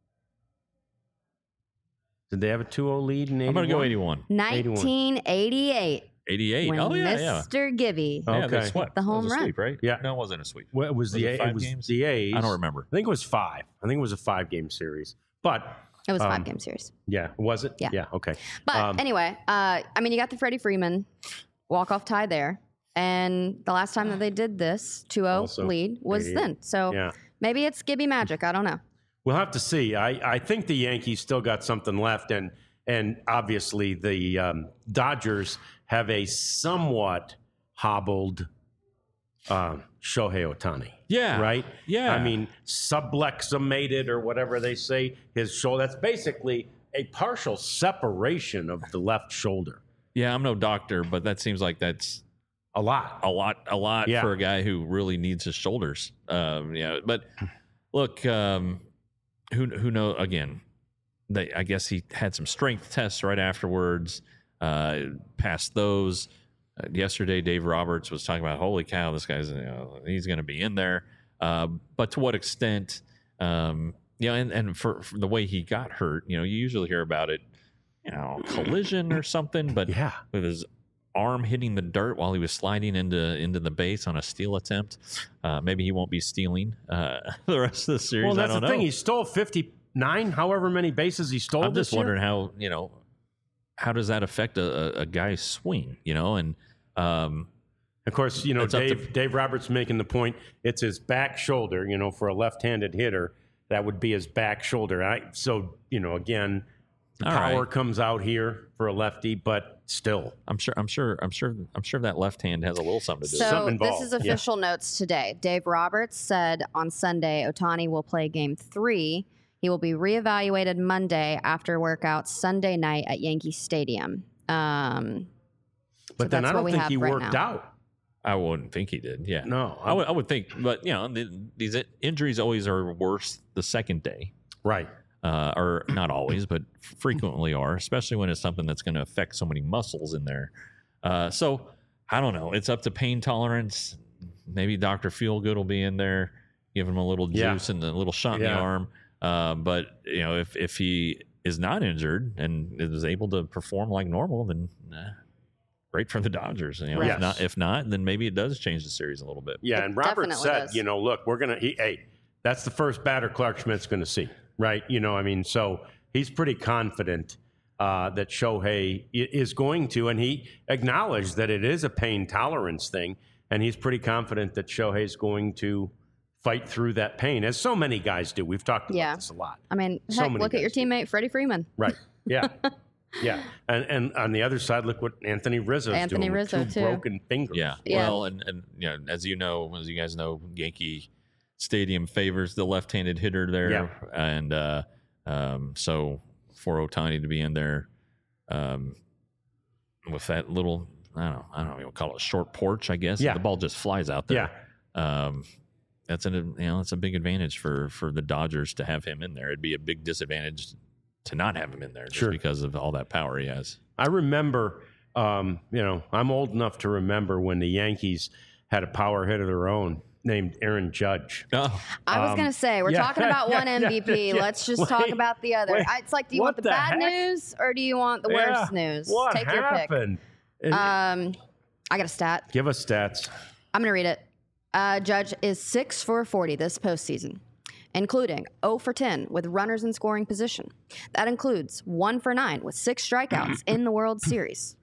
did they have a two oh lead in eighty-one? I'm gonna go eighty-one. nineteen eighty-eight. eighty-eight. When Oh yeah, yeah. Mister Gibby. Oh. Yeah, they Okay. swept. The That home was a run. sweep, right? Yeah. No, it wasn't a sweep. Well, it was, Was the it A- five it was games? the A's. I don't remember. I think it was five. I think it was a five-game series. But It was a Um, five game series. yeah, was it? Yeah. Yeah. Okay. But um, anyway, uh, I mean, you got the Freddie Freeman walk-off tie there. And the last time that they did this two oh Also lead was eighty-eight. then. So Yeah. maybe it's Gibby magic. I don't know. We'll have to see. I, I think the Yankees still got something left, and and obviously the um, Dodgers have a somewhat hobbled um, Shohei Ohtani. Yeah. Right? Yeah. I mean, subluxated or whatever they say, his shoulder. That's basically a partial separation of the left shoulder. Yeah, I'm no doctor, but that seems like that's A lot. a lot, a lot Yeah. for a guy who really needs his shoulders. Um, yeah, but look, um, who who know? Again, they, I guess he had some strength tests right afterwards. Uh, passed those. Uh, yesterday, Dave Roberts was talking about, holy cow, this guy's you know, he's going to be in there. Uh, but to what extent? Um, you know, and, and for, for the way he got hurt, you know, you usually hear about it, you know, collision or something, but Yeah. with his arm hitting the dirt while he was sliding into into the base on a steal attempt. Uh, maybe he won't be stealing uh, the rest of the series. Well, I that's don't the know. thing. He stole fifty-nine, however many bases he stole I'm this just year. wondering how you know how does that affect a, a, a guy's swing? You know, and um, Of course, you know, It's up to- Dave, Dave Roberts making the point, it's his back shoulder, you know, for a left-handed hitter, that would be his back shoulder. I, so, you know, again, the All power right. comes out here for a lefty, but still. I'm sure, I'm sure, I'm sure, I'm sure that left hand has a little something to do. So Something this involved, is yeah. official notes today. Dave Roberts said on Sunday, Ohtani will play game three. He will be reevaluated Monday after workouts Sunday night at Yankee Stadium. Um, But So then that's I what don't we think have he right worked now. out. I wouldn't think he did. Yeah, No. I would, I would think, but you know, the, these injuries always are worse the second day. Right. Uh, or not always, but frequently are, especially when it's something that's going to affect so many muscles in there. Uh, so I don't know. It's up to pain tolerance. Maybe Doctor Feelgood will be in there, give him a little Yeah. juice and a little shot in the Yeah. arm. Uh, but you know, if if he is not injured and is able to perform like normal, then eh, great for the Dodgers. You know, Right. if not, if not, then maybe it does change the series a little bit. Yeah, It and Robert definitely said, does. you know, look, we're going to, hey, that's the first batter Clark Schmidt's going to see, right? You know, I mean, so he's pretty confident uh, that Shohei i- is going to, and he acknowledged that it is a pain tolerance thing, and he's pretty confident that Shohei's going to fight through that pain, as so many guys do. We've talked about Yeah. this a lot. I mean, So heck, many look at your guys do. teammate, Freddie Freeman. Right. Yeah. Yeah. And and on the other side, look what Anthony Rizzo's Anthony doing Rizzo, with two too. broken fingers. Yeah. Yeah. Well, and, and you know, as you know, as you guys know, Yankee Stadium favors the left-handed hitter there, Yeah. and uh, um, so for Ohtani to be in there um, with that little, I don't know, I don't know, what you call it, a short porch, I guess. Yeah. The ball just flies out there. Um, that's an you know, that's a big advantage for for the Dodgers to have him in there. It'd be a big disadvantage to not have him in there just Sure. because of all that power he has. I remember, um, you know, I'm old enough to remember when the Yankees had a power hit of their own named Aaron Judge. Oh, I was Um, going to say, we're yeah, talking about yeah, one yeah, M V P. yeah. Let's just talk Wait, about the other. wait, I- It's like, do you what want the, the bad heck? news or do you want the Yeah, worst news? What Take your pick. happened? And- Um, I got a stat. Give us stats. I'm going to read it. Uh, Judge is six for forty this postseason, including zero for ten with runners in scoring position. That includes one for nine with six strikeouts in the World Series.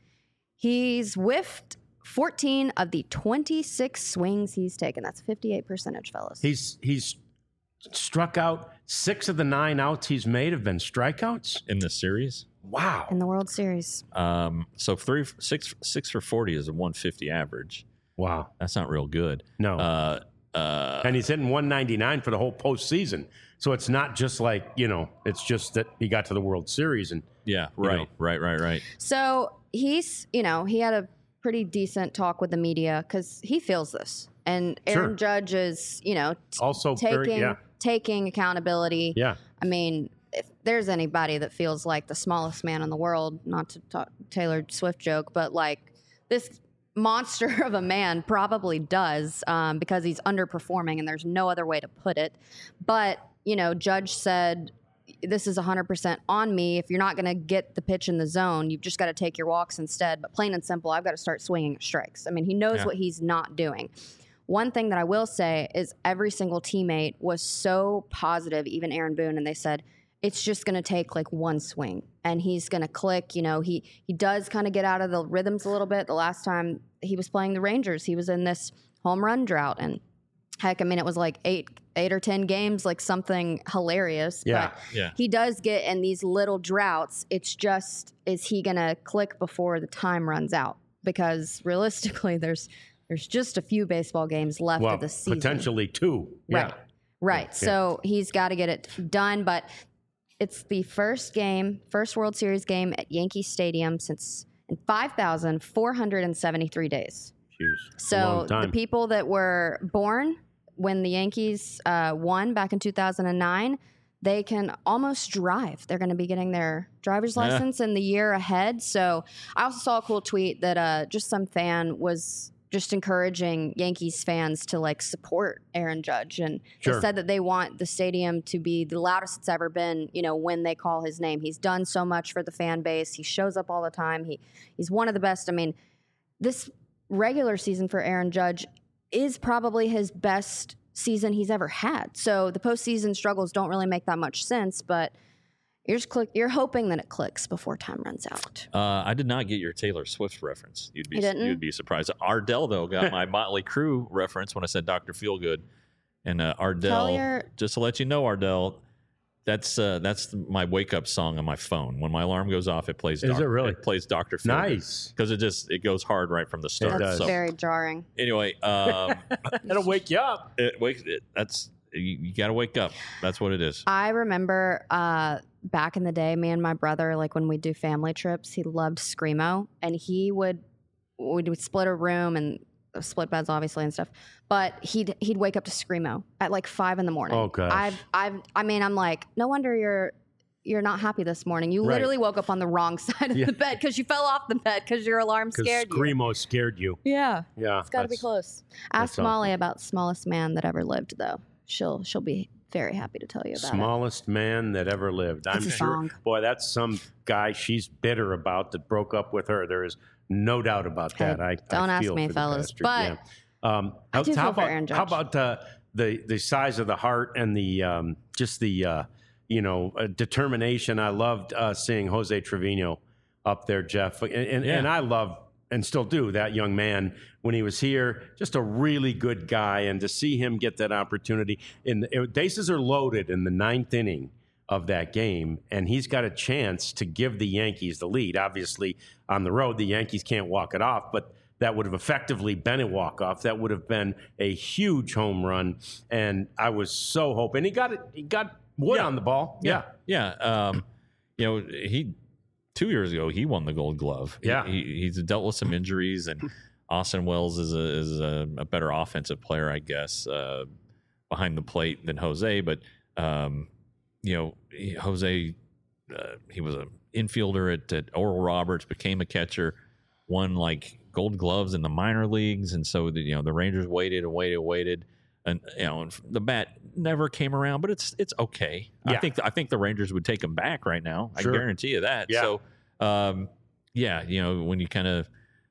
He's whiffed fourteen of the twenty-six swings he's taken. That's a fifty-eight percentage, fellas. He's he's struck out six of the nine outs he's made have been strikeouts in this series. Wow. In the World Series. Um, so three, six, six for forty is a one fifty average. Wow. That's not real good. No. Uh, uh, and he's hitting one ninety-nine for the whole postseason. So it's not just like, you know, it's just that he got to the World Series. and Yeah, right, know. right, right, right. So he's, you know, he had a pretty decent talk with the media because he feels this. And Aaron Sure. Judge is, you know, t- Also taking, very, yeah. taking accountability. Yeah. I mean, if there's anybody that feels like the smallest man in the world, not to talk Taylor Swift joke, but like this monster of a man probably does um, because he's underperforming and there's no other way to put it. But, you know, Judge said, this is one hundred percent on me. If you're not going to get the pitch in the zone, you've just got to take your walks instead. But plain and simple, I've got to start swinging at strikes. I mean, he knows Yeah. what he's not doing. One thing that I will say is every single teammate was so positive, even Aaron Boone, and they said, it's just going to take like one swing and he's going to click. You know, he, he does kind of get out of the rhythms a little bit. The last time he was playing the Rangers, he was in this home run drought. And heck, I mean, it was like eight, eight or ten games, like something hilarious. Yeah. But Yeah. he does get in these little droughts. It's just, is he going to click before the time runs out? Because realistically, there's there's just a few baseball games left Well, of the season. potentially two. Yeah. Right. Right. Yeah. So he's got to get it done. But it's the first game, first World Series game at Yankee Stadium since in five thousand four hundred seventy-three days. Jeez. It's a So long the time. people that were born when the Yankees uh, won back in two thousand nine, they can almost drive. They're going to be getting their driver's Yeah. license in the year ahead. So I also saw a cool tweet that uh, just some fan was just encouraging Yankees fans to like support Aaron Judge. And Sure. they said that they want the stadium to be the loudest it's ever been, you know, when they call his name. He's done so much for the fan base. He shows up all the time. He he's one of the best. I mean, this regular season for Aaron Judge is probably his best season he's ever had. So the postseason struggles don't really make that much sense, but you're just click, you're hoping that it clicks before time runs out. Uh, I did not get your Taylor Swift reference. You'd be You didn't? you'd be surprised. Ardell though got my Motley Crue reference when I said Doctor Feelgood, and uh, Ardell. Tell your- Just to let you know, Ardell, that's uh, that's my wake up song on my phone. When my alarm goes off, it plays. Is Doc- it really? It plays Doctor Feelgood. Nice. Because it just it goes hard right from the start. That's does. So very jarring. anyway, um, It'll wake you up. it wakes. It, that's you, you got to wake up. That's what it is. I remember uh, back in the day, me and my brother, like when we do family trips, he loved Screamo, and he would we would split a room and split beds, obviously, and stuff. But he'd he'd wake up to Screamo at like five in the morning. Oh, gosh. I've I've I mean, I'm like, no wonder you're you're not happy this morning. You Right. literally woke up on the wrong side of Yeah. the bed because you fell off the bed because your alarm Because scared you. Screamo scared you. Yeah, Yeah. it's got to be that's- close. that's Ask Molly awful. about smallest man that ever lived, though. She'll she'll be very happy to tell you about it. Smallest man that ever lived. I'm It's a sure. song. Boy, that's some guy she's bitter about that broke up with her. There is no doubt about Hey, that. I don't I ask feel me, for the fellas, bastard. but Yeah. Um, I how, do how feel for about Aaron how Judge. about uh, the the size of the heart and the um, just the uh, you know uh, determination? I loved uh, seeing Jose Trevino up there, Jeff, and and, Yeah. and I love and still do that young man when he was here. Just a really good guy, and to see him get that opportunity. In the, it, bases are loaded in the ninth inning of that game, and he's got a chance to give the Yankees the lead. Obviously, on the road, the Yankees can't walk it off, but that would have effectively been a walk-off. That would have been a huge home run, and I was so hoping. He got it. He got wood Yeah. on the ball. Yeah. Yeah. Um, you know, he two years ago he won the Gold Glove. He- Yeah. he, he's dealt with some injuries, and Austin Wells is a is a, a better offensive player, I guess, uh, behind the plate than Jose. But um, you know, he, Jose, uh, he was an infielder at, at Oral Roberts, became a catcher, won like Gold Gloves in the minor leagues, and so the, you know the Rangers waited and waited and waited. And you know and the bat never came around, but it's it's okay. I Yeah. think I think the Rangers would take him back right now. Sure. I guarantee you that. Yeah. So, um, yeah, you know when you kind of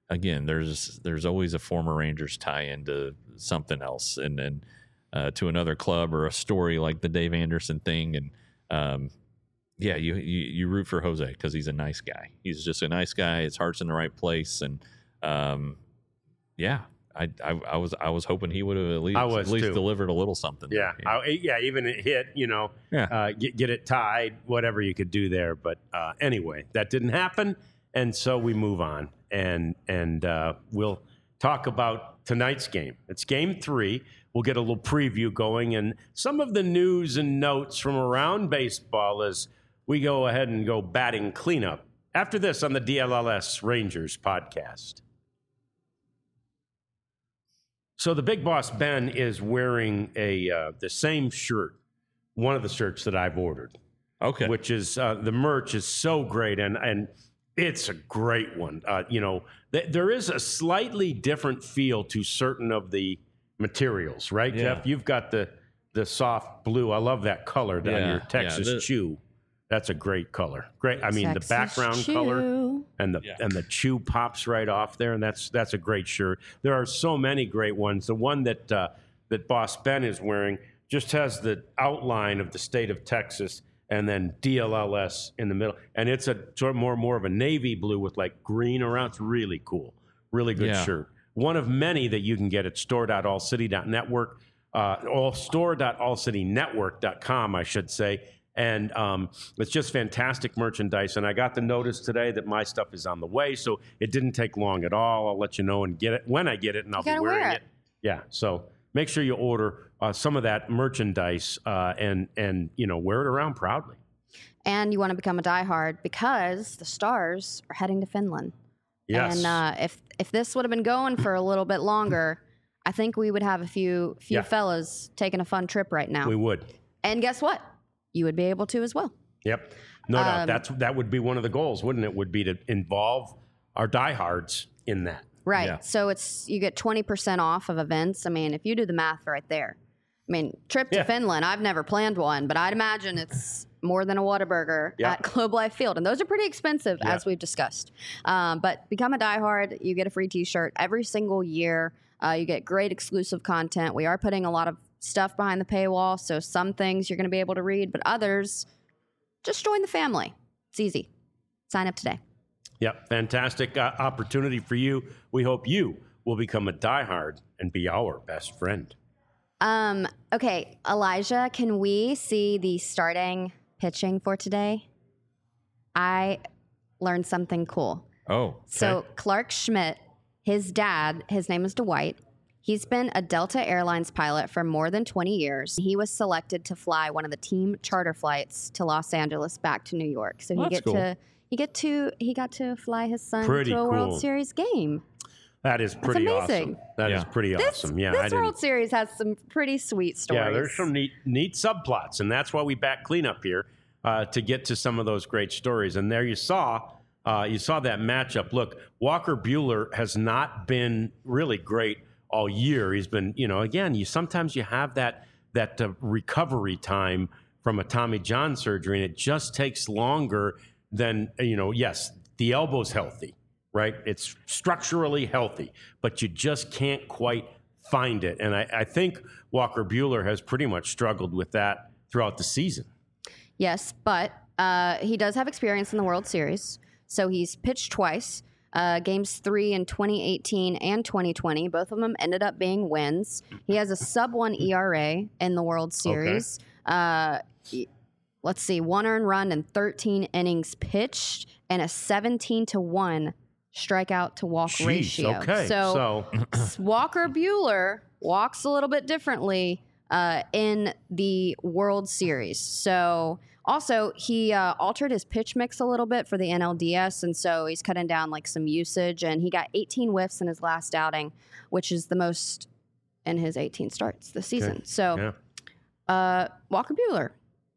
again, there's there's always a former Rangers tie into something else, and and uh, to another club or a story like the Dave Anderson thing, and um, yeah, you, you you root for Jose because he's a nice guy. He's just a nice guy. His heart's in the right place, and um, yeah. I, I, I was I was hoping he would have at least I was at least too. delivered a little something. Yeah, yeah. I, yeah, even it hit, you know, Yeah. uh, get get it tied, whatever you could do there. But uh, anyway, that didn't happen, and so we move on, and and uh, we'll talk about tonight's game. It's game three. We'll get a little preview going, and some of the news and notes from around baseball as we go ahead and go batting cleanup after this on the D L L S Rangers podcast. So the big boss, Ben, is wearing a uh, the same shirt, one of the shirts that I've ordered. Okay. Which is, uh, the merch is so great, and and it's a great one. Uh, you know, th- there is a slightly different feel to certain of the materials, right, Yeah. Jeff? You've got the, the soft blue. I love that color down Yeah, your yeah, Texas the- Chew. That's a great color. Great. I mean, Texas the background Chew. color and the Yeah. and the chew pops right off there, and that's that's a great shirt. There are so many great ones. The one that uh, that Boss Ben is wearing just has the outline of the state of Texas and then D L L S in the middle, and it's a sort of more more of a navy blue with like green around. It's really cool, really good Yeah. shirt. One of many that you can get at store dot all city dot network, uh, all store dot all city network dot com, I should say. And um, it's just fantastic merchandise. And I got the notice today that my stuff is on the way, so it didn't take long at all. I'll let you know and get it when I get it, and I'll You be gotta wearing wear it. it. Yeah, so make sure you order uh, some of that merchandise uh, and and you know wear it around proudly. And you want to become a diehard because the Stars are heading to Finland. Yes. And uh, if if this would have been going for a little bit longer, I think we would have a few few Yeah. fellas taking a fun trip right now. We would. And guess what? You would be able to as well. Yep. No doubt. Um, That's that would be one of the goals, wouldn't it? Would be to involve our diehards in that. Right. Yeah. So it's you get twenty percent off of events. I mean, if you do the math right there. I mean, trip to Yeah. Finland, I've never planned one, but I'd imagine it's more than a Whataburger Yeah. at Globe Life Field. And those are pretty expensive, Yeah. as we've discussed. Um, but become a diehard. You get a free t-shirt every single year. Uh, you get great exclusive content. We are putting a lot of stuff behind the paywall. So some things you're going to be able to read, but others, just join the family. It's easy. Sign up today. Yep. Fantastic uh, opportunity for you. We hope you will become a diehard and be our best friend. Um, okay, Elijah, can we see the starting pitching for today? I learned something cool. Oh, So Clark Schmidt, his dad, his name is Dwight. He's been a Delta Airlines pilot for more than twenty years. He was selected to fly one of the team charter flights to Los Angeles back to New York. So he That's get cool. to he get to he got to fly his son Pretty to a cool. World Series game. That is pretty amazing. awesome. That is Yeah. pretty This, awesome. Yeah, this I didn't. World Series has some pretty sweet stories. Yeah, there's some neat neat subplots, and that's why we back cleanup here uh, to get to some of those great stories. And there you saw, uh, you saw that matchup. Look, Walker Buehler has not been really great all year. He's been, you know, again, you sometimes you have that that uh, recovery time from a Tommy John surgery, and it just takes longer than you know. Yes, the elbow's healthy, right? It's structurally healthy, but you just can't quite find it. And I, I think Walker Buehler has pretty much struggled with that throughout the season. Yes, but uh, he does have experience in the World Series. So he's pitched twice, uh, games three in twenty eighteen and twenty twenty. Both of them ended up being wins. He has a sub one E R A in the World Series. Uh, he- let's see, one earned run and thirteen innings pitched, and a seventeen to one strikeout to walk Jeez, ratio. okay. So, So, Walker Buehler walks a little bit differently uh, in the World Series. So also he uh, altered his pitch mix a little bit for the N L D S, and so he's cutting down like some usage. And he got eighteen whiffs in his last outing, which is the most in his eighteen starts this season. So yeah. uh, Walker Buehler,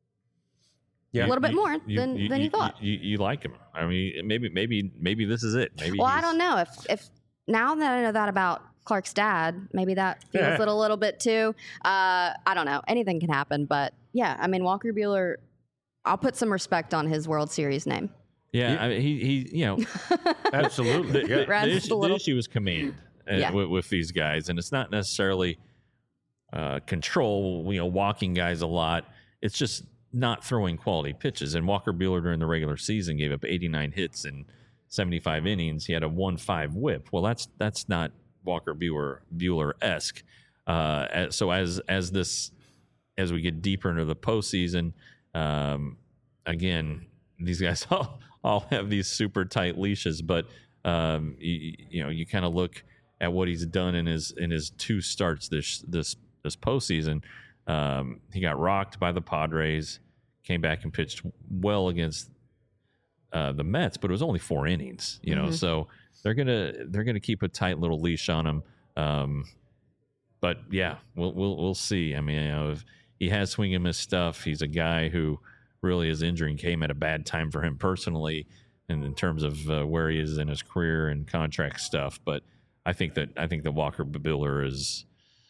Yeah. a little bit more than than you thought. You, you like him. I mean, maybe maybe maybe this is it. Maybe Well, I he's- don't know if if now that I know that about Clark's dad, maybe that feels Yeah. it a little bit too. Uh, I don't know. Anything can happen, but yeah, I mean Walker Buehler. I'll put some respect on his World Series name. Yeah, He- I mean, he he you know Absolutely. the, Yeah. the, Rams the just issue, a little- the issue is command uh, Yeah. with, with these guys, and it's not necessarily uh, control. You know, walking guys a lot. It's just not throwing quality pitches. And Walker Buehler during the regular season gave up eighty-nine hits in seventy-five innings. He had a one point five WHIP. Well, that's that's not Walker Buehler Buehler esque. Uh, as- so as as this as we get deeper into the postseason, um, again, these guys all, all have these super tight leashes, but um, you, you know, you kind of look at what he's done in his in his two starts this this this postseason. Um, he got rocked by the Padres, came back and pitched well against uh, the Mets, but it was only four innings. You know, Mhm. so they're gonna they're gonna keep a tight little leash on him. Um, but yeah, we'll we'll we'll see. I mean, you know, if he has swing and miss stuff, he's a guy who really his injury came at a bad time for him personally, and in terms of uh, where he is in his career and contract stuff. But I think that I think that Walker Buehler is.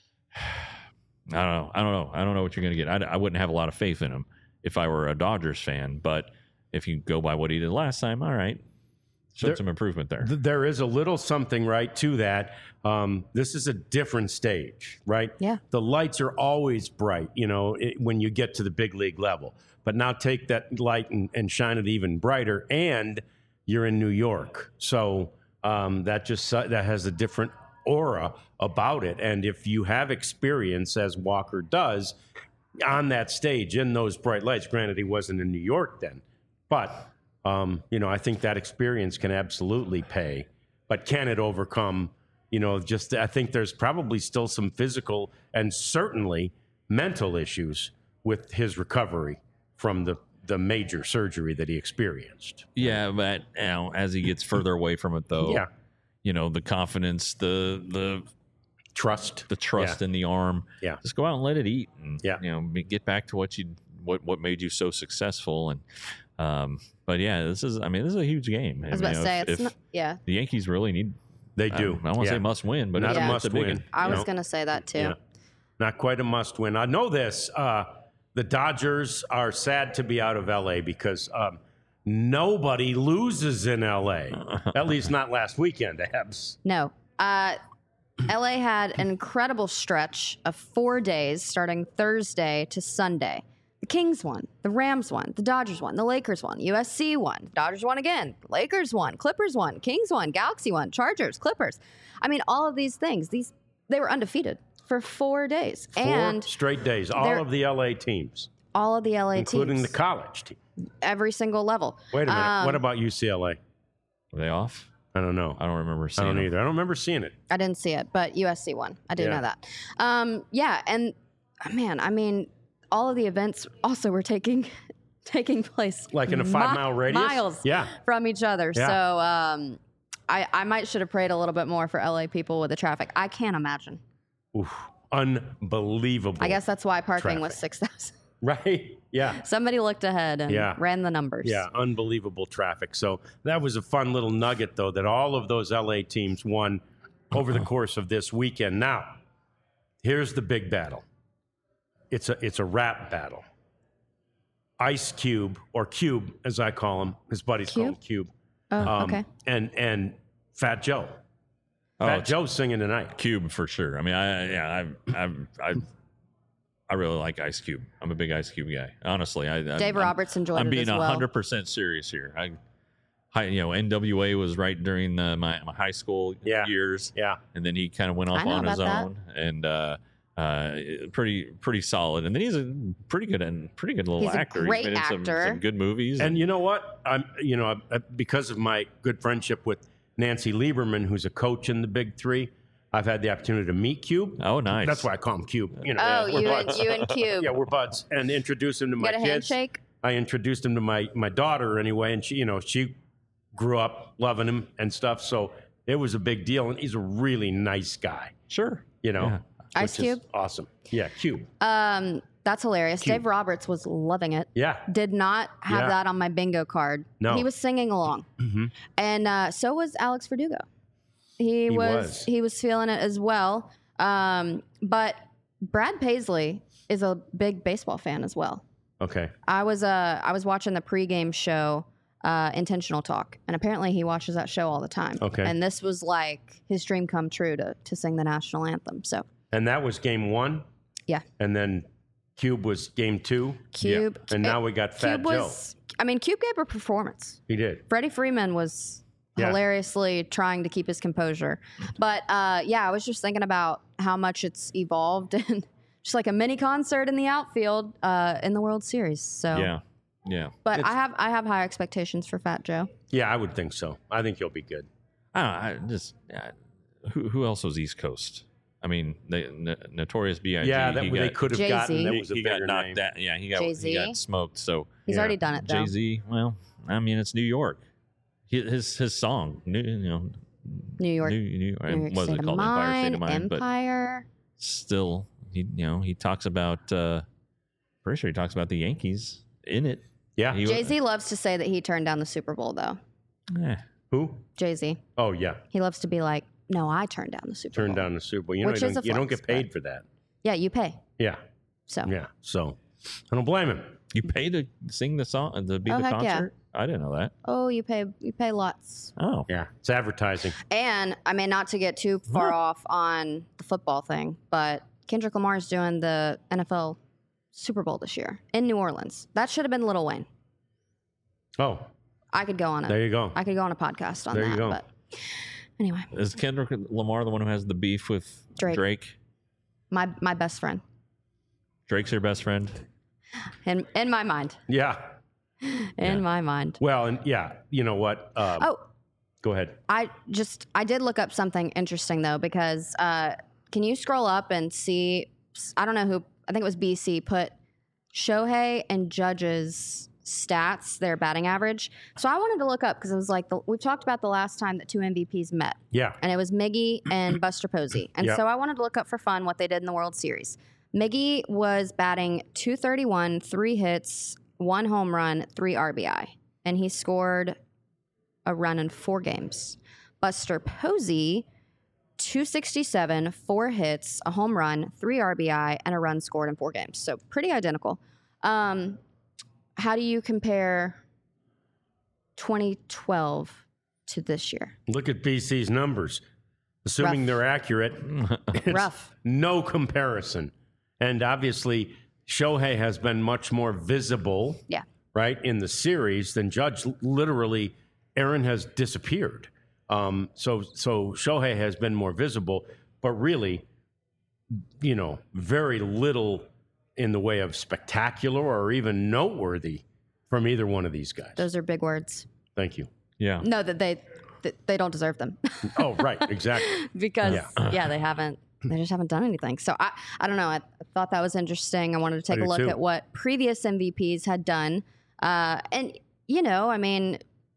I don't know. I don't know. I don't know what you're going to get. I, I wouldn't have a lot of faith in him if I were a Dodgers fan. But if you go by what he did last time, all right, showed There- some improvement there. Th- There is a little something, right, to that. Um, this is a different stage, right? Yeah. The lights are always bright, you know, it, when you get to the big league level. But now take that light and, and shine it even brighter, and you're in New York. So um, that just that has a different aura about it. And if you have experience, as Walker does, on that stage in those bright lights, granted he wasn't in New York then, but um, you know, I think that experience can absolutely pay. But can it overcome, you know, just I think there's probably still some physical and certainly mental issues with his recovery from the the major surgery that he experienced. Yeah, but you know, as he gets further away from it, though, Yeah. you know, the confidence, the the Trust. the trust Yeah. in the arm, Yeah. just go out and let it eat, and Yeah. you know, be- get back to what you what what made you so successful. And um, but yeah, this is I mean, this is a huge game. I was about to say, it's if not, yeah. the Yankees really need. They do. I, I won't Yeah. say must win, but Not it's, a it's a must big win. one. I you was know? going to say that too. Yeah. Not quite a must win. I know this. Uh, the Dodgers are sad to be out of L A because um, nobody loses in L A. At least not last weekend, Abs. No. Uh, L A had an incredible stretch of four days starting Thursday to Sunday. The Kings won, the Rams won, the Dodgers won, the Lakers won, U S C won, the Dodgers won again, Lakers won, Clippers won, Kings won, Galaxy won, Chargers, Clippers. I mean, all of these things, these they were undefeated for four days. Four and straight days. All they're- of the L A teams, all of the L A including teams, the college team. every single level. Wait a minute. Um, what about U C L A? Were they off? I don't know. I don't remember I seeing. don't them. either. I don't remember seeing it. I didn't see it, but U S C won. I do Yeah. know that. Um, yeah, and uh, man, I mean, all of the events also were taking taking place Like in a five mile radius? miles Yeah. from each other. Yeah. So um, I I might should have prayed a little bit more for L A people with the traffic. I can't imagine. Oof. Unbelievable. I guess that's why parking was Traffic. six thousand. Right? Yeah. Somebody looked ahead and Yeah. ran the numbers. Yeah, unbelievable traffic. So that was a fun little nugget, though, that all of those L A teams won over the course of this weekend. Now, here's the big battle. It's a it's a rap battle. Ice Cube, or Cube, as I call him, his buddies call him Cube. Oh, Um, okay. And and Fat Joe. Oh, Fat it's Joe's singing tonight. Cube for sure. I mean, I yeah, I I I I really like Ice Cube. I'm a big Ice Cube guy. Honestly, I I'm, Dave I'm- Roberts enjoyed I'm it being as well. hundred percent serious here. I, I, you know, N W A was right during the, my my high school Yeah. years, Yeah. and then he kind of went I off know on his about that. own, and uh, uh, pretty pretty solid. And then he's a pretty good and pretty good little He's a actor. great he's been in some, actor. some good movies. And you know what? I'm, you know, I- because of my good friendship with Nancy Lieberman, who's a coach in the Big Three, I've had the opportunity to meet Cube. oh, nice. That's why I call him Cube. You know, Oh, we're you and buds. you and Cube. Yeah, we're buds, and introduce him to You my got a kids. handshake? I introduced him to my my daughter anyway, and she, you know, she grew up loving him and stuff. So it was a big deal, and he's a really nice guy. Sure. You know, Yeah. Ice which is Cube? awesome. Yeah, Cube. Um, that's hilarious. Cube. Dave Roberts was loving it. Yeah, Did not have Yeah. that on my bingo card. No. He was singing along. Mhm. And uh, so was Alex Verdugo. He, He was, was. he was feeling it as well. Um, but Brad Paisley is a big baseball fan as well. okay. I was uh I was watching the pregame show uh, Intentional Talk. And apparently he watches that show all the time. Okay. And this was like his dream come true to, to sing the national anthem. So, And that was game one? yeah. And then Cube was game two? Cube. And now we got Fat Cube Joe. was, I mean, Cube gave a performance. He did. Freddie Freeman was Yeah. hilariously trying to keep his composure. But uh, yeah, I was just thinking about how much it's evolved and just like a mini concert in the outfield uh, in the World Series. So Yeah. Yeah. But It's- I have I have high expectations for Fat Joe. Yeah, I would think so. I think he'll be good. I don't know. I just yeah, who who else was East Coast? I mean, the N- Notorious B I G. Yeah, that he they got, could have Jay-Z. gotten. That he, was a he got bigger knocked name. down. Yeah, he got Jay-Z. he got smoked. So He's Yeah. already done it though. Jay Z. Well, I mean, it's New York. His his, his song, new, you know, New York. New, New, New what York was State it of called? Empire State of Mind, Mind. But Empire. still, he you know he talks about. Uh, pretty sure he talks about the Yankees in it. Yeah. He- Jay Z loves to say that he turned down the Super Bowl though. Eh, Who? Jay Z. Oh, yeah. He loves to be like, no, I turned down the Super Turned Bowl. down the Super Bowl. You know, Which you is don't, a you don't flex, get paid but- for that. Yeah, you pay. Yeah. So Yeah. So I don't blame him. you pay to sing the song, to be Oh, the heck yeah. concert. I didn't know that. oh, you pay you pay lots. Oh, Yeah. It's advertising. And I mean, not to get too far off on the football thing, but Kendrick Lamar is doing the N F L Super Bowl this year in New Orleans. That should have been Lil Wayne. Oh, I could go on there a you go. I could go on a podcast on There that. you go. But anyway, is Kendrick Lamar the one who has the beef with Drake. Drake? my my best friend Drake's your best friend. in in my mind, Yeah. in Yeah. my mind. Well, and yeah, you know what? Um, Oh, Go ahead. I just I did look up something interesting though because uh, can you scroll up and see? I don't know who. I think it was B C put Shohei and Judge's stats, their batting average. So I wanted to look up because it was like the, we've talked about the last time that two M V Ps met, Yeah. and it was Miggy and Buster Posey. And Yep. so I wanted to look up for fun what they did in the World Series. Miggy was batting two thirty-one, three hits, one home run, three R B I, and he scored a run in four games. Buster Posey, two sixty-seven, four hits, a home run, three R B I, and a run scored in four games. So pretty identical. Um, how do you compare twenty twelve to this year? Look at B C's numbers. Assuming Rough. they're accurate, it's Rough. no comparison. And obviously, Shohei has been much more visible, Yeah. right, in the series than Judge. Literally, Aaron has disappeared. Um, so, so Shohei has been more visible, but really, you know, very little in the way of spectacular or even noteworthy from either one of these guys. Those are big words. Thank you. Yeah. No, that they that they don't deserve them Oh, right, exactly. because Yeah. yeah. they haven't. They just haven't done anything. So I, I don't know. I, I thought that was interesting. I wanted to take I a do look too. at what previous M V Ps had done, uh, and you know, I mean,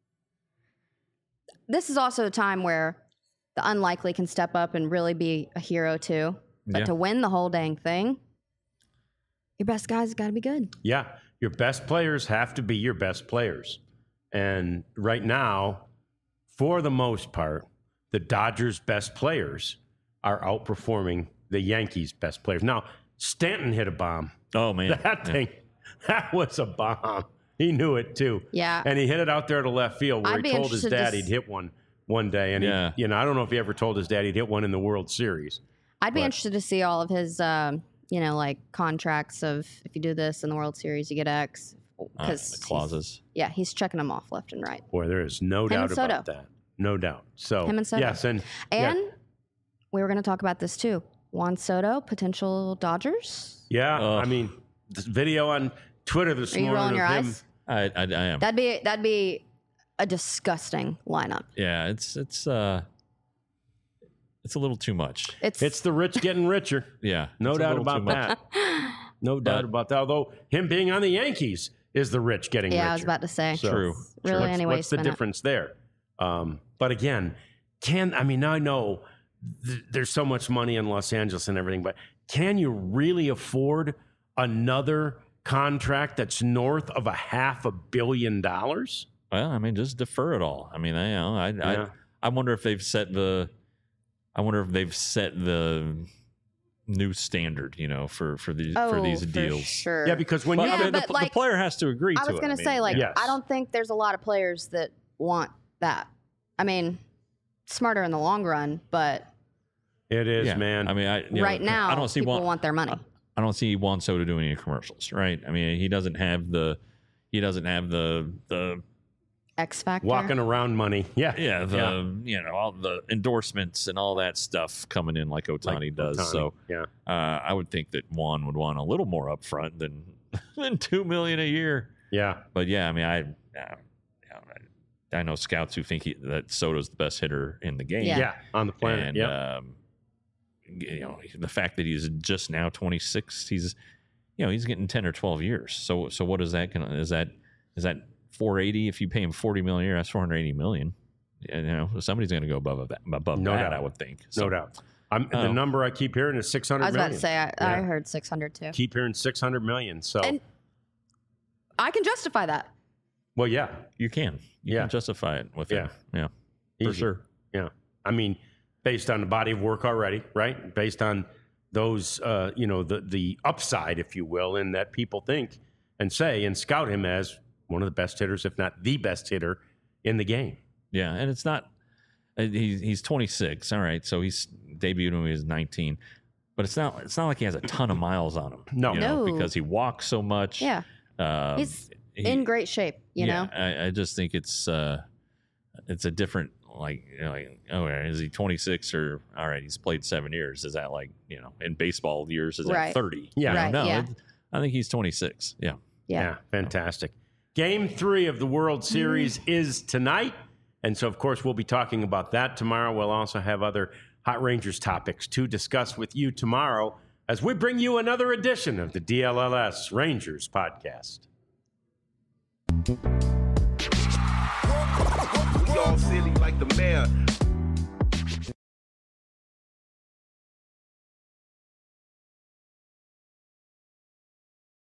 this is also a time where the unlikely can step up and really be a hero too. But Yeah. to win the whole dang thing, your best guys got to be good. Yeah, your best players have to be your best players. And right now, for the most part, the Dodgers' best players are outperforming the Yankees' best players. Now, Stanton hit a bomb. Oh man. That Yeah. thing, that was a bomb. He knew it too. Yeah. And he hit it out there to left field where I'd he be told his interested to dad s- he'd hit one one day. And Yeah. he, you know, I don't know if he ever told his dad he'd hit one in the World Series. I'd be But- interested to see all of his, um, you know, like contracts of if you do this in the World Series, you get X. Uh, Because the clauses. yeah, he's checking them off left and right. Boy, there is no Him doubt and Soto. about that. No doubt. So Him and Soto. yes, and yeah. And we were going to talk about this too. Juan Soto, potential Dodgers. Yeah, Ugh. I mean, this video on Twitter this Are you rolling morning your of him. eyes? I, I, I am. That'd be that'd be a disgusting lineup. yeah. It's it's uh, it's a little too much. It's, It's the rich getting richer. Yeah. No it's a doubt little too about much. that. No doubt But- about that. Although him being on the Yankees is the rich getting richer. yeah. I was about to say. So, True. It's Really, what's, anyway, what's the spin it. difference there? Um, but again, can I mean I know th- there's so much money in Los Angeles and everything, but can you really afford another contract that's north of a half a billion dollars? Well, I mean, just defer it all. I mean, I, you know, I, Yeah. I, I wonder if they've set the, I wonder if they've set the, new standard, you know, for for these oh, for these for deals. Sure. Yeah, because when But, you I Yeah, mean, the, but, the like, player has to agree I to was it. gonna I mean, say, like, Yes. I don't think there's a lot of players that want that. I mean, smarter in the long run, but it is, yeah. man. I mean, I, you right know, now, I don't see people Juan, want their money. I don't see Juan Soto doing any commercials, right? I mean, he doesn't have the he doesn't have the the X Factor. walking around money. Yeah. yeah the Yeah. you know all the endorsements and all that stuff coming in like Ohtani Like does. Ohtani. So yeah. uh, I would think that Juan would want a little more upfront than than two million a year. Yeah. But yeah, I mean, I I, I know scouts who think he, that Soto's the best hitter in the game. Yeah. Yeah. On the planet. And yeah. um, you know, the fact that he's just now twenty-six, he's you know he's getting ten or twelve years. So so what is that gonna is that is that four eighty? If you pay him forty million a year, that's four hundred eighty million. You know, somebody's going to go above that. Above No that, doubt. I would think. no So, doubt. I'm, the Oh. number I keep hearing is six hundred I was million. about to say, I, I Yeah. heard six hundred too. Keep hearing six hundred million. So, And I can justify that. well, yeah. You can, you Yeah. can justify it with Yeah. him. Yeah, for Easy. sure. Yeah. I mean, based on the body of work already, right? Based on those, uh, you know, the, the upside, if you will, in that people think and say and scout him as one of the best hitters, if not the best hitter in the game. Yeah, and it's not. uh, He's he's twenty-six. All right, so he's debuted when he was nineteen, but it's not. It's not like he has a ton of miles on him. No. you know, No. because he walks so much. Yeah. um, He's he- in great shape, you yeah, know? I, I just think it's uh, it's a different like you know, like oh is he twenty-six or all right he's played seven years is that like you know in baseball years is that Right. thirty Yeah. You know, Right, no yeah. it- I think he's twenty-six yeah Yeah. Fantastic. Game three of the World Series is tonight. And so, of course, we'll be talking about that tomorrow. We'll also have other Hot Rangers topics to discuss with you tomorrow as we bring you another edition of the D L L S Rangers podcast. We all silly like the mayor.